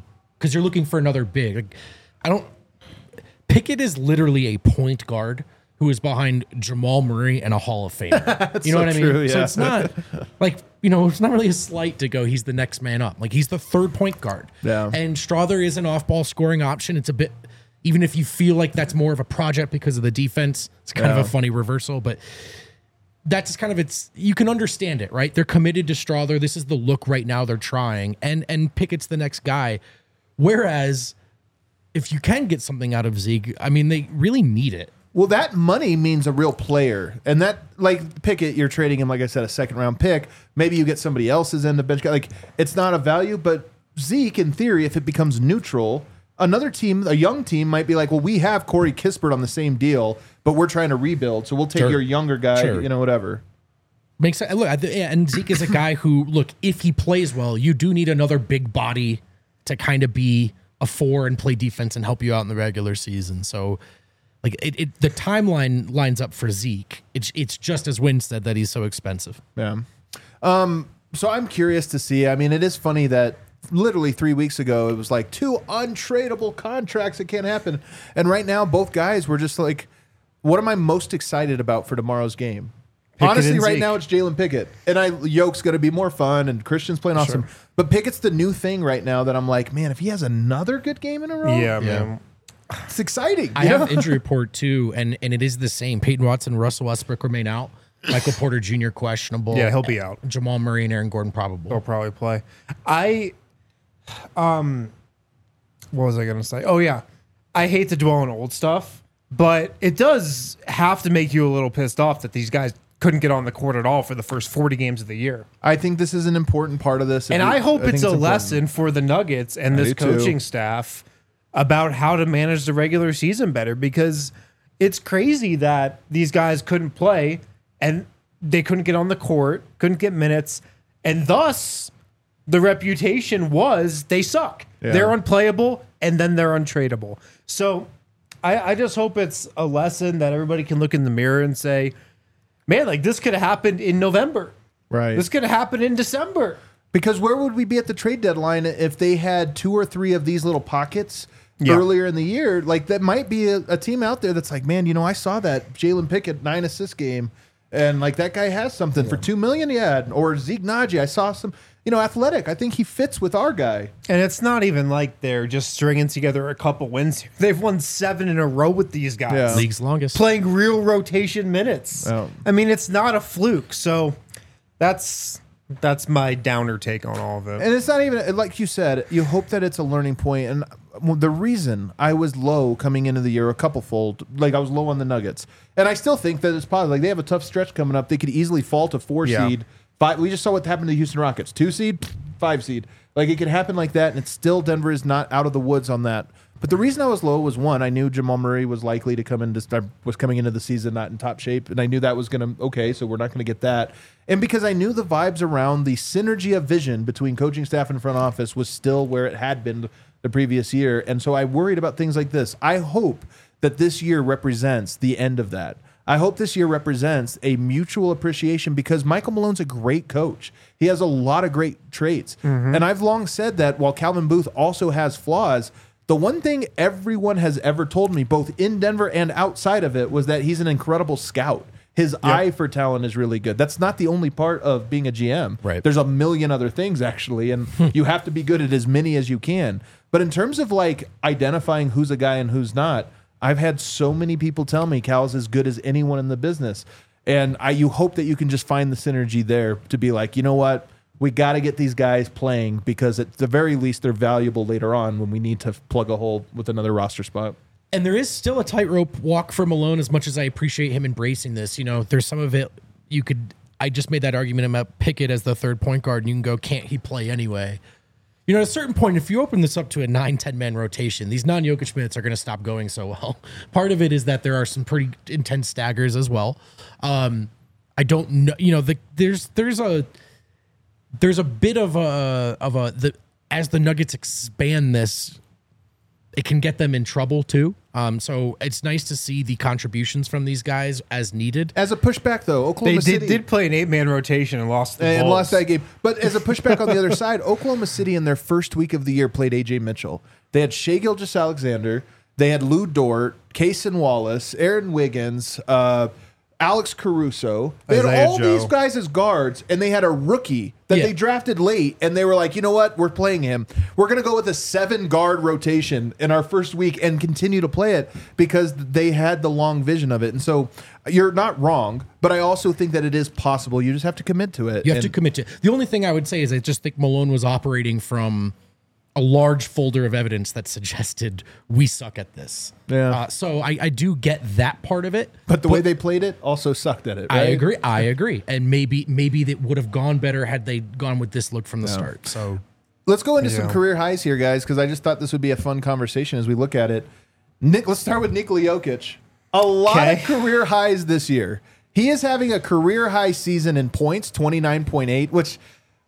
because you're looking for another big. Like, I don't. Pickett is literally a point guard who is behind Jamal Murray and a Hall of Famer. You know so what I mean? true, So yeah. it's not like, you know, it's not really a slight to go, he's the next man up. Like, he's the third point guard. Yeah. And Strother is an off ball scoring option. It's a bit, even if you feel like that's more of a project because of the defense, it's kind Yeah. of a funny reversal, but that's kind of it's you can understand it, right? They're committed to Strother. This is the look right now they're trying. And and Pickett's the next guy. Whereas if you can get something out of Zeke, I mean, they really need it. Well, that money means a real player, and that like Pickett, you're trading him, like I said, a second round pick. Maybe you get somebody else's in the bench guy. Like it's not a value, but Zeke, in theory, if it becomes neutral, another team, a young team, might be like, well, we have Corey Kispert on the same deal, but we're trying to rebuild, so we'll take Sure. your younger guy, Sure. you know, whatever. Makes sense. Look, I th- yeah, and Zeke is a guy who, look, if he plays well, you do need another big body to kind of be a four and play defense and help you out in the regular season. So, like, it, it the timeline lines up for Zeke. It's it's just as Wynn said that he's so expensive. Yeah. Um. So I'm curious to see. I mean, it is funny that literally three weeks ago it was like two untradeable contracts that can't happen, and right now both guys were just like, what am I most excited about for tomorrow's game? Pickett Honestly, and right Zeke. now it's Jalen Pickett, and I Yoke's going to be more fun, and Christian's playing awesome. But Pickett's the new thing right now that I'm like, man, if he has another good game in a row, Yeah, man. it's exciting. I you have know? an injury report too, and and it is the same. Peyton Watson, Russell Westbrook remain out. Michael Porter Junior questionable. Yeah, he'll be out. Jamal Murray and Aaron Gordon probable. He'll probably play. I, um, what was I gonna say? Oh yeah, I hate to dwell on old stuff, but it does have to make you a little pissed off that these guys couldn't get on the court at all for the first forty games of the year. I think this is an important part of this, And If we- I hope think it's a important. lesson for the Nuggets and I this do too. coaching staff about how to manage the regular season better, because it's crazy that these guys couldn't play and they couldn't get on the court, couldn't get minutes, and thus the reputation was they suck. Yeah. They're unplayable, and then they're untradeable. So I, I just hope it's a lesson that everybody can look in the mirror and say, man, like this could have happened in November. Right. This could have happened in December. Because where would we be at the trade deadline if they had two or three of these little pockets Yeah. earlier in the year? Like that might be a, a team out there that's like, man, you know, I saw that Jalen Pickett nine assist game, and like that guy has something for two million. Yeah, or Zeke Naji, I saw some, you know, athletic. I think he fits with our guy. And it's not even like they're just stringing together a couple wins here. They've won seven in a row with these guys. Yeah. League's longest. Playing real rotation minutes. Oh. I mean, it's not a fluke. So that's that's my downer take on all of it. And it's not even like you said. You hope that it's a learning point. And well, the reason I was low coming into the year, a couple fold, like I was low on the Nuggets, and I still think that it's positive. Like they have a tough stretch coming up. They could easily fall to four Yeah. seed. Five. We just saw what happened to the Houston Rockets. Two seed, five seed. Like it could happen like that, and it's still Denver is not out of the woods on that. But the reason I was low was one, I knew Jamal Murray was likely to come into was coming into the season not in top shape, and I knew that was going to okay, so we're not going to get that. And because I knew the vibes around the synergy of vision between coaching staff and front office was still where it had been the previous year, and so I worried about things like this. I hope that this year represents the end of that. I hope this year represents a mutual appreciation because Michael Malone's a great coach. He has a lot of great traits. And I've long said that while Calvin Booth also has flaws, the one thing everyone has ever told me, both in Denver and outside of it, was that he's an incredible scout. His eye for talent is really good. That's not the only part of being a G M. Right. There's a million other things, actually, and you have to be good at as many as you can. But in terms of like identifying who's a guy and who's not, I've had so many people tell me Cal's as good as anyone in the business. And I you hope that you can just find the synergy there to be like, you know what? We got to get these guys playing because at the very least they're valuable later on when we need to plug a hole with another roster spot. And there is still a tightrope walk for Malone as much as I appreciate him embracing this. You know, there's some of it you could, I just made that argument about Pickett as the third point guard and you can go, can't he play anyway? You know, at a certain point, if you open this up to a nine, ten man rotation, these non-Jokic minutes are going to stop going so well. Part of it is that there are some pretty intense staggers as well. Um, I don't know, you know, the, there's, there's a, there's a bit of a, of a, the, as the Nuggets expand this, it can get them in trouble too. Um, so it's nice to see the contributions from these guys as needed. As a pushback, though, Oklahoma They did, City did play an eight-man rotation and lost the and Bulls. lost that game. But as a pushback on the other side, Oklahoma City in their first week of the year played A J Mitchell. They had Shai Gilgeous-Alexander. They had Lou Dort, Kaysen Wallace, Aaron Wiggins, uh, Alex Caruso. They had Isaiah all Joe. these guys as guards, and they had a rookie that Yeah. they drafted late, and they were like, you know what? We're playing him. We're going to go with a seven-guard rotation in our first week and continue to play it because they had the long vision of it. And so you're not wrong, but I also think that it is possible. You just have to commit to it. You have And- to commit to. The only thing I would say is I just think Malone was operating from a large folder of evidence that suggested we suck at this. Yeah. Uh, so I, I do get that part of it. But the way they played it also sucked at it. I right? agree. I agree. And maybe maybe that would have gone better had they gone with this look from the start. So Let's go into some Yeah. career highs here, guys, because I just thought this would be a fun conversation as we look at it. Nick, let's start with Nikola Jokic. A lot Okay. of career highs this year. He is having a career high season in points, twenty-nine point eight, which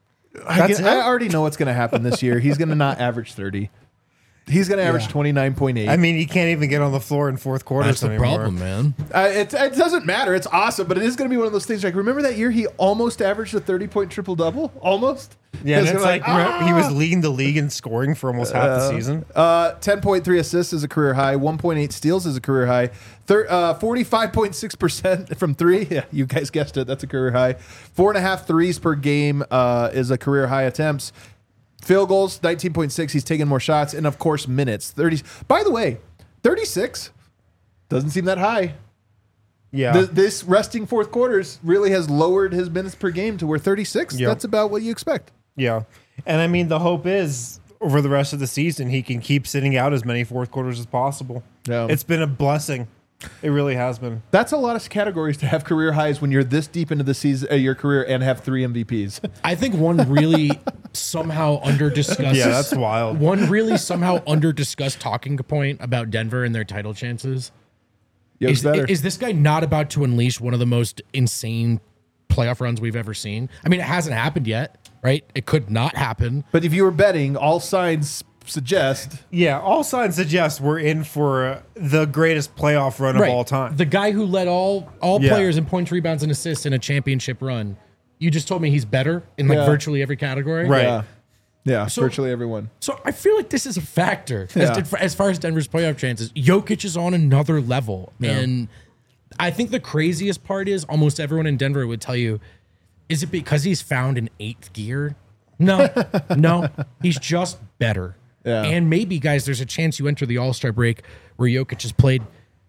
I, That's get- it? I already know what's going to happen this year. He's going to not average thirty. He's going to average Yeah. twenty-nine point eight. I mean, he can't even get on the floor in fourth quarters that's the anymore. problem, man. Uh, it, it doesn't matter. It's awesome, but it is going to be one of those things. Like, remember that year he almost averaged a thirty-point triple-double? Almost? Yeah, and It's it's like, ah! he was leading the league in scoring for almost half the season. Uh, ten point three assists is a career high. one point eight steals is a career high. Thir- uh, forty-five point six percent from three. Yeah, you guys guessed it. That's a career high. Four and a half threes per game uh, is a career high attempts. Field goals, nineteen point six. He's taking more shots. And, of course, minutes. thirty. By the way, thirty-six doesn't seem that high. Yeah. Th- this resting fourth quarters really has lowered his minutes per game to where thirty-six, Yep. that's about what you expect. Yeah. And I mean, the hope is over the rest of the season, he can keep sitting out as many fourth quarters as possible. Yeah. It's been a blessing. It really has been. That's a lot of categories to have career highs when you're this deep into the season, uh, your career and have three M V Ps. I think one really somehow under discussed. Yeah, that's wild. One really somehow under discussed talking point about Denver and their title chances. Yo's Is, better. is this guy not about to unleash one of the most insane playoff runs we've ever seen? I mean, it hasn't happened yet, right? It could not happen. But if you were betting, all signs suggest. Yeah, all signs suggest we're in for uh, the greatest playoff run of all time. The guy who led all all Yeah. players in points, rebounds, and assists in a championship run. You just told me he's better in like Yeah. virtually every category. Right. Yeah. Yeah, So- virtually everyone. So I feel like this is a factor Yeah. as, as far as Denver's playoff chances. Jokic is on another level. And I think the craziest part is almost everyone in Denver would tell you, is it because he's found an eighth gear? No, no. He's just better. Yeah. And maybe, guys, there's a chance you enter the All-Star break where Jokic has played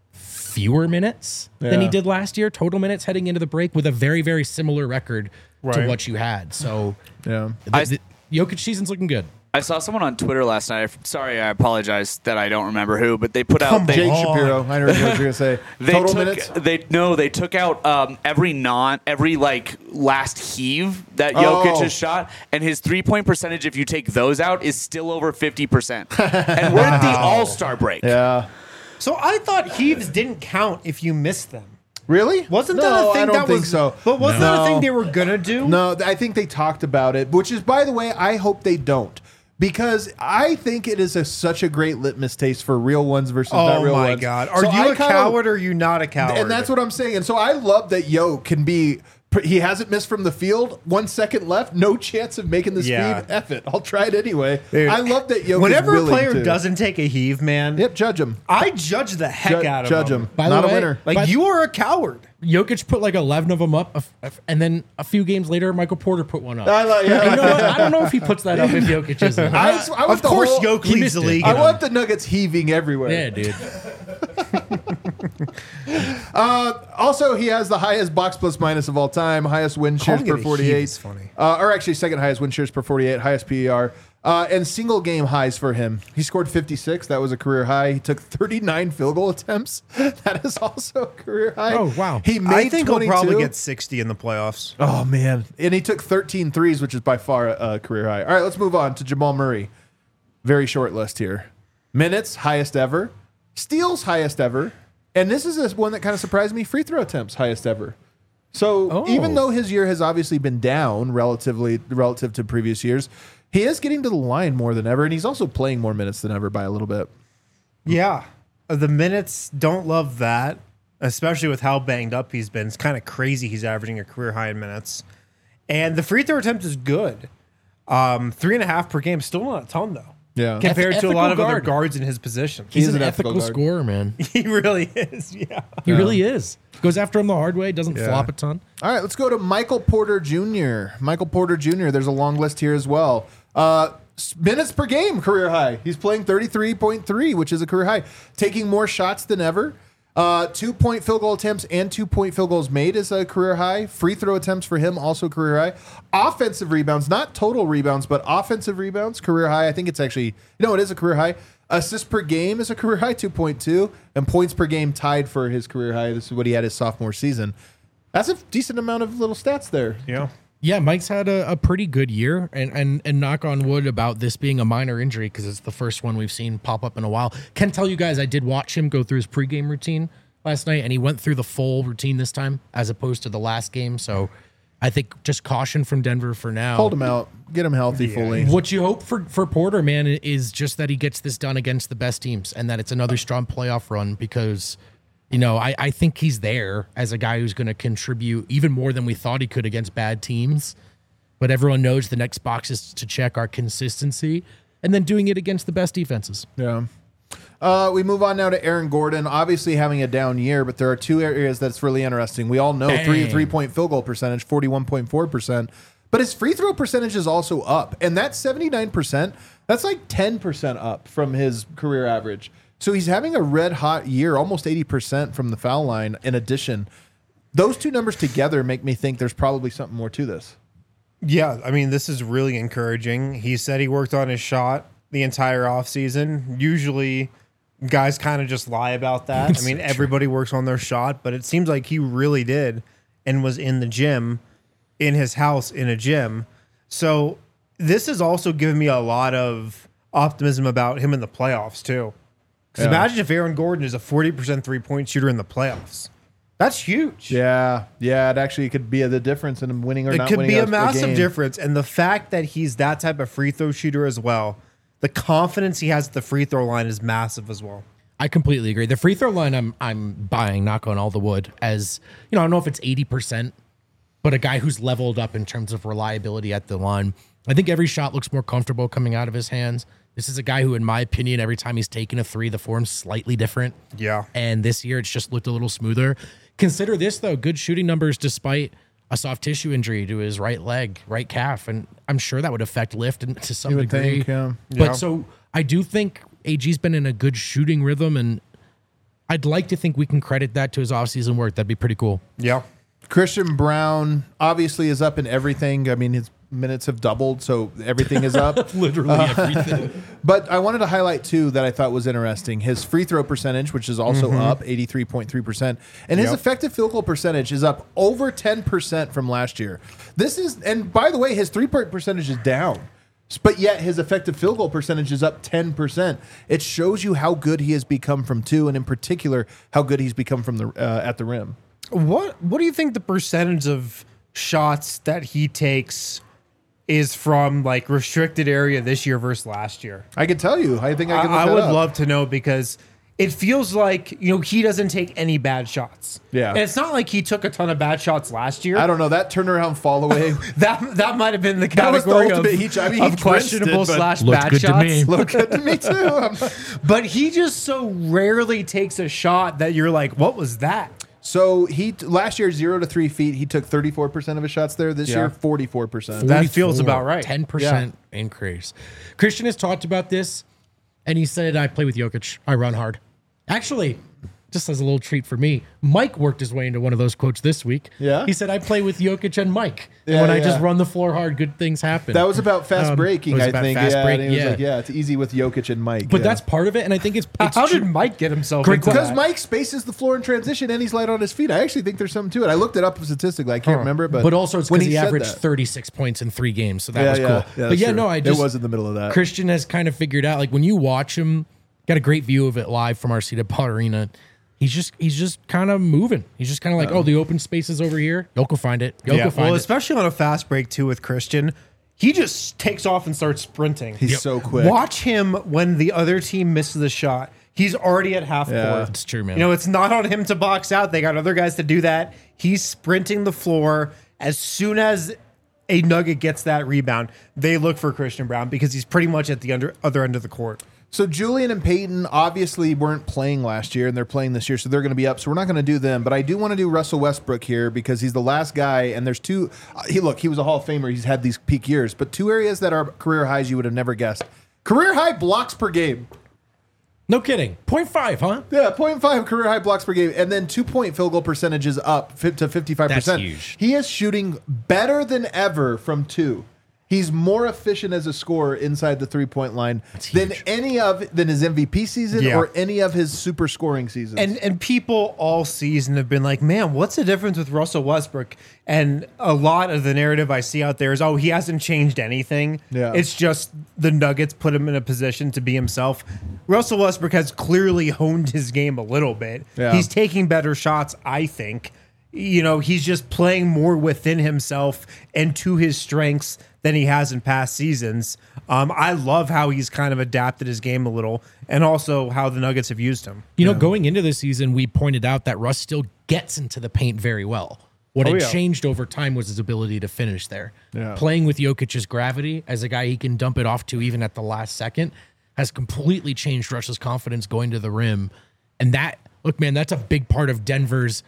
fewer minutes than he Yeah. did last year, total minutes heading into the break with a very, very similar record to Right. what you had. So Yeah. the, I- the Jokic season's looking good. I saw someone on Twitter last night. Sorry, I apologize that I don't remember who, but they put out Come they, Jake on. Shapiro. I know what you were going to say. they Total took minutes? they no they took out um, every non every like last heave that Oh. Jokic has shot, and his three point percentage if you take those out is still over fifty percent. And we're at the All Star break. Yeah. So I thought heaves didn't count if you missed them. Really? Wasn't no, that a thing I don't that think was so. But wasn't that No. a thing they were gonna do? No, I think they talked about it, which is, by the way, I hope they don't. Because I think it is a, such a great litmus taste for real ones versus not Oh real my ones. god. Are So you I a kinda- coward or are you not a coward? And that's what I'm saying. And so I love that Yo can be. He hasn't missed from the field. One second left. No chance of making this Yeah. feed. F it. I'll try it anyway. Dude, I love that Yo. Whenever is a willing player to. doesn't take a heave, man, Yep. Judge him. I judge the heck Ju- out of judge him. him. By the Not a way- winner. Like But- you are a coward. Jokic put like eleven of them up, a f- and then a few games later, Michael Porter put one up. I like- yeah. You know what? I don't know if he puts that up if Jokic isn't. I, I want Of the course, whole- Jokic he leads missed the it. league. I in them. want the Nuggets heaving everywhere. Yeah, dude. Uh, also, he has the highest box plus minus of all time, highest win shares Calling per it a heave forty-eight. is funny. Uh, or actually, second highest win shares per forty-eight, highest P E R, uh, and single game highs for him. He scored fifty-six. That was a career high. He took thirty-nine field goal attempts. That is also a career high. Oh, wow. He made I think twenty-two. he'll probably get sixty in the playoffs. Oh, man. And he took thirteen threes, which is by far a career high. All right, let's move on to Jamal Murray. Very short list here. Minutes, highest ever. Steals, highest ever. And this is this one that kind of surprised me. Free throw attempts, highest ever. So Oh. even though his year has obviously been down relatively relative to previous years, he is getting to the line more than ever, and he's also playing more minutes than ever by a little bit. Yeah. The minutes, don't love that, especially with how banged up he's been. It's kind of crazy he's averaging a career high in minutes. And the free throw attempt is good. Um, three and a half per game, still not a ton, though. Yeah. Compared Eth- to a lot of ethical other guard. guards in his position. He's He's an, an ethical, ethical guard. scorer, man. He really is, yeah. He really is. Goes after him the hard way, doesn't Yeah. flop a ton. All right, let's go to Michael Porter Junior Michael Porter Junior There's a long list here as well. Uh, s- minutes per game, career high. He's playing thirty-three point three, which is a career high. Taking more shots than ever. Uh, two-point field goal attempts and two-point field goals made is a career high. Free throw attempts for him, also career high. Offensive rebounds, not total rebounds, but offensive rebounds, career high. I think it's actually, you know, it is a career high. Assists per game is a career high, two point two. And points per game tied for his career high. This is what he had his sophomore season. That's a decent amount of little stats there. Yeah. Yeah, Mike's had a, a pretty good year, and, and and knock on wood about this being a minor injury because it's the first one we've seen pop up in a while. Can tell you guys, I did watch him go through his pregame routine last night, and he went through the full routine this time as opposed to the last game. So I think just caution from Denver for now. Hold him out. Get him healthy fully. What you hope for, for Porter, man, is just that he gets this done against the best teams and that it's another strong playoff run because, you know, I, I think he's there as a guy who's going to contribute even more than we thought he could against bad teams. But everyone knows the next boxes to check are consistency and then doing it against the best defenses. Yeah. Uh, we move on now to Aaron Gordon, obviously having a down year, but there are two areas that's really interesting. We all know three Dang. three-point field goal percentage, forty-one point four percent, but his free throw percentage is also up, and that's seventy-nine percent. That's like ten percent up from his career average. So he's having a red-hot year, almost eighty percent from the foul line in addition. Those two numbers together make me think there's probably something more to this. Yeah, I mean, this is really encouraging. He said he worked on his shot the entire offseason. Usually, guys kind of just lie about that. I mean, everybody works on their shot, but it seems like he really did and was in the gym, in his house, in a gym. So this has also given me a lot of optimism about him in the playoffs, too. Because Yeah. imagine if Aaron Gordon is a forty percent three-point shooter in the playoffs. That's huge. Yeah, yeah, it actually could be the difference in him winning or It not could winning. be a game. massive difference. And the fact that he's that type of free throw shooter as well, the confidence he has at the free throw line is massive as well. I completely agree. The free throw line, I'm I'm buying, knock on all the wood, as you know, I don't know if it's eighty percent, but a guy who's leveled up in terms of reliability at the line. I think every shot looks more comfortable coming out of his hands. This is a guy who, in my opinion, every time he's taken a three, the form's slightly different. Yeah. And this year, it's just looked a little smoother. Consider this, though, good shooting numbers despite a soft tissue injury to his right leg, right calf. And I'm sure that would affect lift and to some You would degree. think, yeah. But Yeah. so I do think A G's been in a good shooting rhythm, and I'd like to think we can credit that to his offseason work. That'd be pretty cool. Yeah. Christian Brown obviously is up in everything. I mean, his minutes have doubled, so everything is up. Literally everything. But I wanted to highlight, too, that I thought was interesting. His free throw percentage, which is also up, eighty-three point three percent. And his Yep. effective field goal percentage is up over ten percent from last year. This is, and by the way, his three-point percentage is down. But yet his effective field goal percentage is up ten percent. It shows you how good he has become from two, and in particular, how good he's become from the uh, at the rim. What What do you think the percentage of shots that he takes is from like restricted area this year versus last year? I can tell you. I think I I, can look I that would up. love to know because it feels like, you know, he doesn't take any bad shots. Yeah. And it's not like he took a ton of bad shots last year. I don't know. That turnaround fall away That that might have been the That was the category ultimate of, he- I mean, he of drenched questionable it, but slash looked bad good to shots. me. look good to me, too. I'm- But he just so rarely takes a shot that you're like, what was that? So he last year zero to three feet. He took thirty-four percent of his shots there. This Yeah. year, forty-four percent. That feels about right. ten percent increase. Christian has talked about this, and he said, I play with Jokic. I run hard. Actually, just as a little treat for me, Mike worked his way into one of those quotes this week. Yeah? He said, I play with Jokic and Mike. Yeah, and when I yeah. just run the floor hard, good things happen. That was about fast Um, breaking. it was I about think. fast yeah, break, and he was yeah. like, yeah, it's easy with Jokic and Mike. but yeah. that's part of it, and I think it's, it's How true. did Mike get himself Great into because that? Mike spaces the floor in transition and he's light on his feet. I actually think there's something to it. I looked it up statistically. I can't remember, but But also, it's when because he, said averaged that- thirty-six points in three games, so that Yeah, was yeah, cool. yeah, but that's yeah, true. no, I It just was in the middle of that. Christian has kind of figured out, like when you watch him, got a great view of it live from our seat at Paul Arena. He's just he's just kind of moving. He's just kind of like, oh, the open space is over here. Yoke will find it. Yoke Yeah, will find well, it. especially on a fast break too with Christian, he just takes off and starts sprinting. He's so quick. Watch him when the other team misses the shot. He's already at half Yeah. court. It's true, man. You know, it's not on him to box out. They got other guys to do that. He's sprinting the floor. As soon as a Nugget gets that rebound, they look for Christian Braun because he's pretty much at the under, other end of the court. So Julian and Peyton obviously weren't playing last year, and they're playing this year, so they're going to be up. So we're not going to do them, but I do want to do Russell Westbrook here because he's the last guy, and there's two. Uh, he look, he was a Hall of Famer. He's had these peak years, but two areas that are career highs you would have never guessed. Career high blocks per game. No kidding. point five, huh? Yeah, zero point five career high blocks per game, and then two point field goal percentages up fi- to fifty-five percent. That's huge. He is shooting better than ever from two. He's more efficient as a scorer inside the three-point line than huge. any of than his M V P season Yeah. or any of his super scoring seasons. And and people all season have been like, man, what's the difference with Russell Westbrook? And a lot of the narrative I see out there is, oh, he hasn't changed anything. Yeah. It's just the Nuggets put him in a position to be himself. Russell Westbrook has clearly honed his game a little bit. Yeah. He's taking better shots, I think. You know, he's just playing more within himself and to his strengths than he has in past seasons. Um, I love how he's kind of adapted his game a little, and also how the Nuggets have used him. You know, going into the season, we pointed out that Russ still gets into the paint very well. What Oh, had yeah. changed over time was his ability to finish there. Yeah. Playing with Jokic's gravity as a guy he can dump it off to even at the last second has completely changed Russ's confidence going to the rim. And that, look, man, that's a big part of Denver's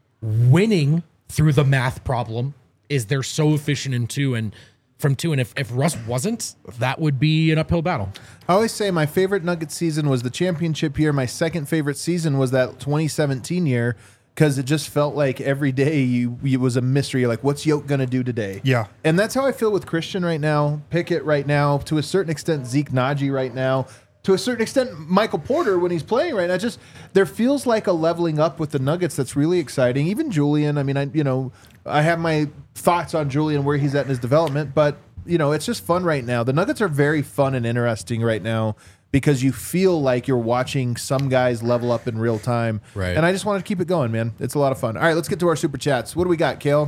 winning through the math problem is they're so efficient in two and from two. And if, if Russ wasn't, that would be an uphill battle. I always say my favorite Nuggets season was the championship year. My second favorite season was that twenty seventeen year because it just felt like every day you, it was a mystery. You're like, what's Yoke going to do today? Yeah. And that's how I feel with Christian right now, Pickett right now, to a certain extent, Zeke Naji right now, to a certain extent, Michael Porter when he's playing right now. Just there feels like a leveling up with the Nuggets that's really exciting. Even Julian, I mean, I you know, I have my thoughts on Julian where he's at in his development, but you know, it's just fun right now. The Nuggets are very fun and interesting right now because you feel like you're watching some guys level up in real time. Right. And I just wanted to keep it going, man. It's a lot of fun. All right, let's get to our super chats. What do we got, Kale?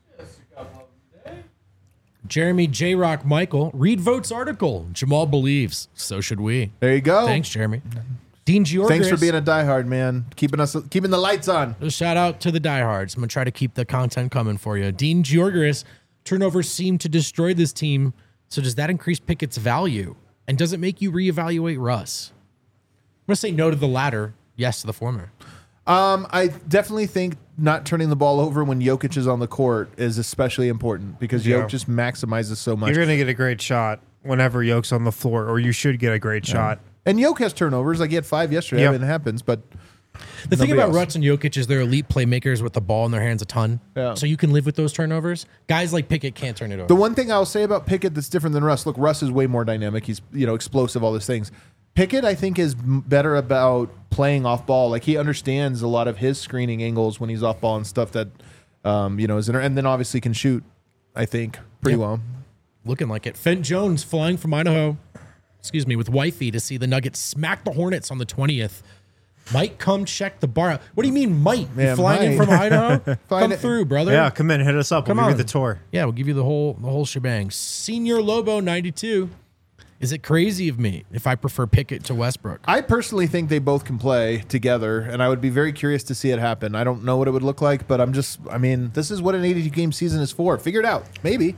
Jeremy J. Rock Michael, read Vote's article. Jamal believes. So should we. There you go. Thanks, Jeremy. Dean Georgis. Thanks for being a diehard, man. Keeping us keeping the lights on. A shout out to the diehards. I'm going to try to keep the content coming for you. Dean Georgis, turnovers seem to destroy this team. So does that increase Pickett's value? And does it make you reevaluate Russ? I'm going to say no to the latter, yes to the former. Um, I definitely think not turning the ball over when Jokic is on the court is especially important because Yeah. Jokic just maximizes so much. You're going to get a great shot whenever Yoke's on the floor, or you should get a great shot. And Jokic has turnovers. Like he had five yesterday. Yep. I mean, it happens, but The thing Nobody about else. Russ and Jokic is they're elite playmakers with the ball in their hands a ton. Yeah. So you can live with those turnovers. Guys like Pickett can't turn it over. the one thing I'll say about Pickett that's different than Russ, look, Russ is way more dynamic. He's, you know, explosive, all these things. Pickett, I think, is m- better about playing off ball. Like he understands a lot of his screening angles when he's off ball and stuff that, um, you know, is inter- and then obviously can shoot, I think, pretty Yeah. well. Looking like it. Fent Jones flying from Idaho, excuse me, with wifey to see the Nuggets smack the Hornets on the twentieth. Might come check the bar out. What do you mean, might? Yeah, you flying in might. from Idaho? come Find it- through, brother. Yeah, come in, hit us up. Come we'll give on. you the tour. Yeah, we'll give you the whole the whole shebang. Senior Lobo ninety-two. Is it crazy of me if I prefer Pickett to Westbrook? I personally think they both can play together, and I would be very curious to see it happen. I don't know what it would look like, but I'm just, I mean, this is what an eighty-two game season is for. Figure it out. Maybe.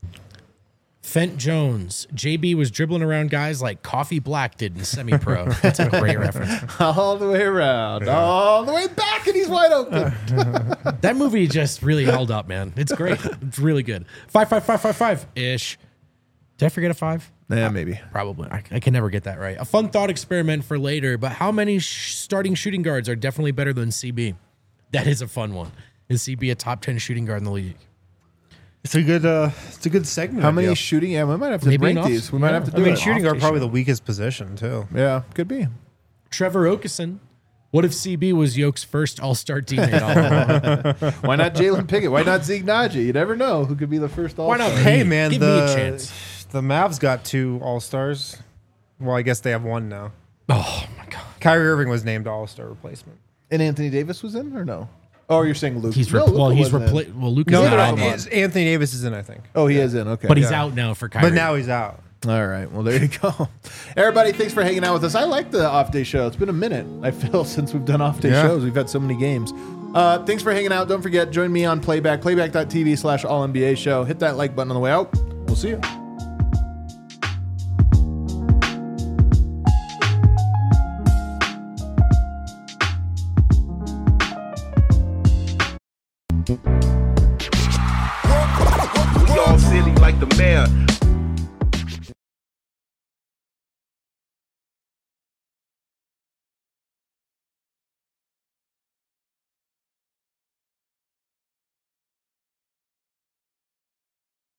Fent Jones. J B was dribbling around guys like Coffee Black did in semi-pro. That's a great reference. All the way around, all the way back, and he's wide open. That movie just really held up, man. It's great. It's really good. Five, five, five, five, five ish. Did I forget a five? Yeah, maybe. Probably. I, I can never get that right. A fun thought experiment for later, but how many sh- starting shooting guards are definitely better than C B? That is a fun one. Is C B a top ten shooting guard in the league? It's a good, uh, it's a good segment. How many idea. shooting? Yeah, we might have to Maybe rank an off- these. We might yeah. have to do I mean, it. shooting guard Off-day probably show. the weakest position too. Yeah, could be. Trevor Okeson. What if C B was Yoke's first all-star teammate all along? Why not Jalen Pickett? Why not Zeke Naji? You never know who could be the first all. Why not Hey man, Give the me a chance. the Mavs got two All Stars. Well, I guess they have one now. Oh, my God. Kyrie Irving was named All Star replacement. And Anthony Davis was in, or no? Oh, you're saying Luke? He's no, repl- Luka well, he's wasn't in. replaced. Well, Luke No, is Neither out of them now. on. it's- Anthony Davis is in, I think. Oh, he is in. Okay, But he's Yeah. out now for Kyrie. But now he's out. All right. Well, there you go. Everybody, thanks for hanging out with us. I like the off-day show. It's been a minute, I feel, since we've done off-day Yeah. shows. We've had so many games. Uh, thanks for hanging out. Don't forget, join me on Playback, playback.tv slash all N B A show. Hit that like button on the way out. We'll see you. We all silly like the mayor.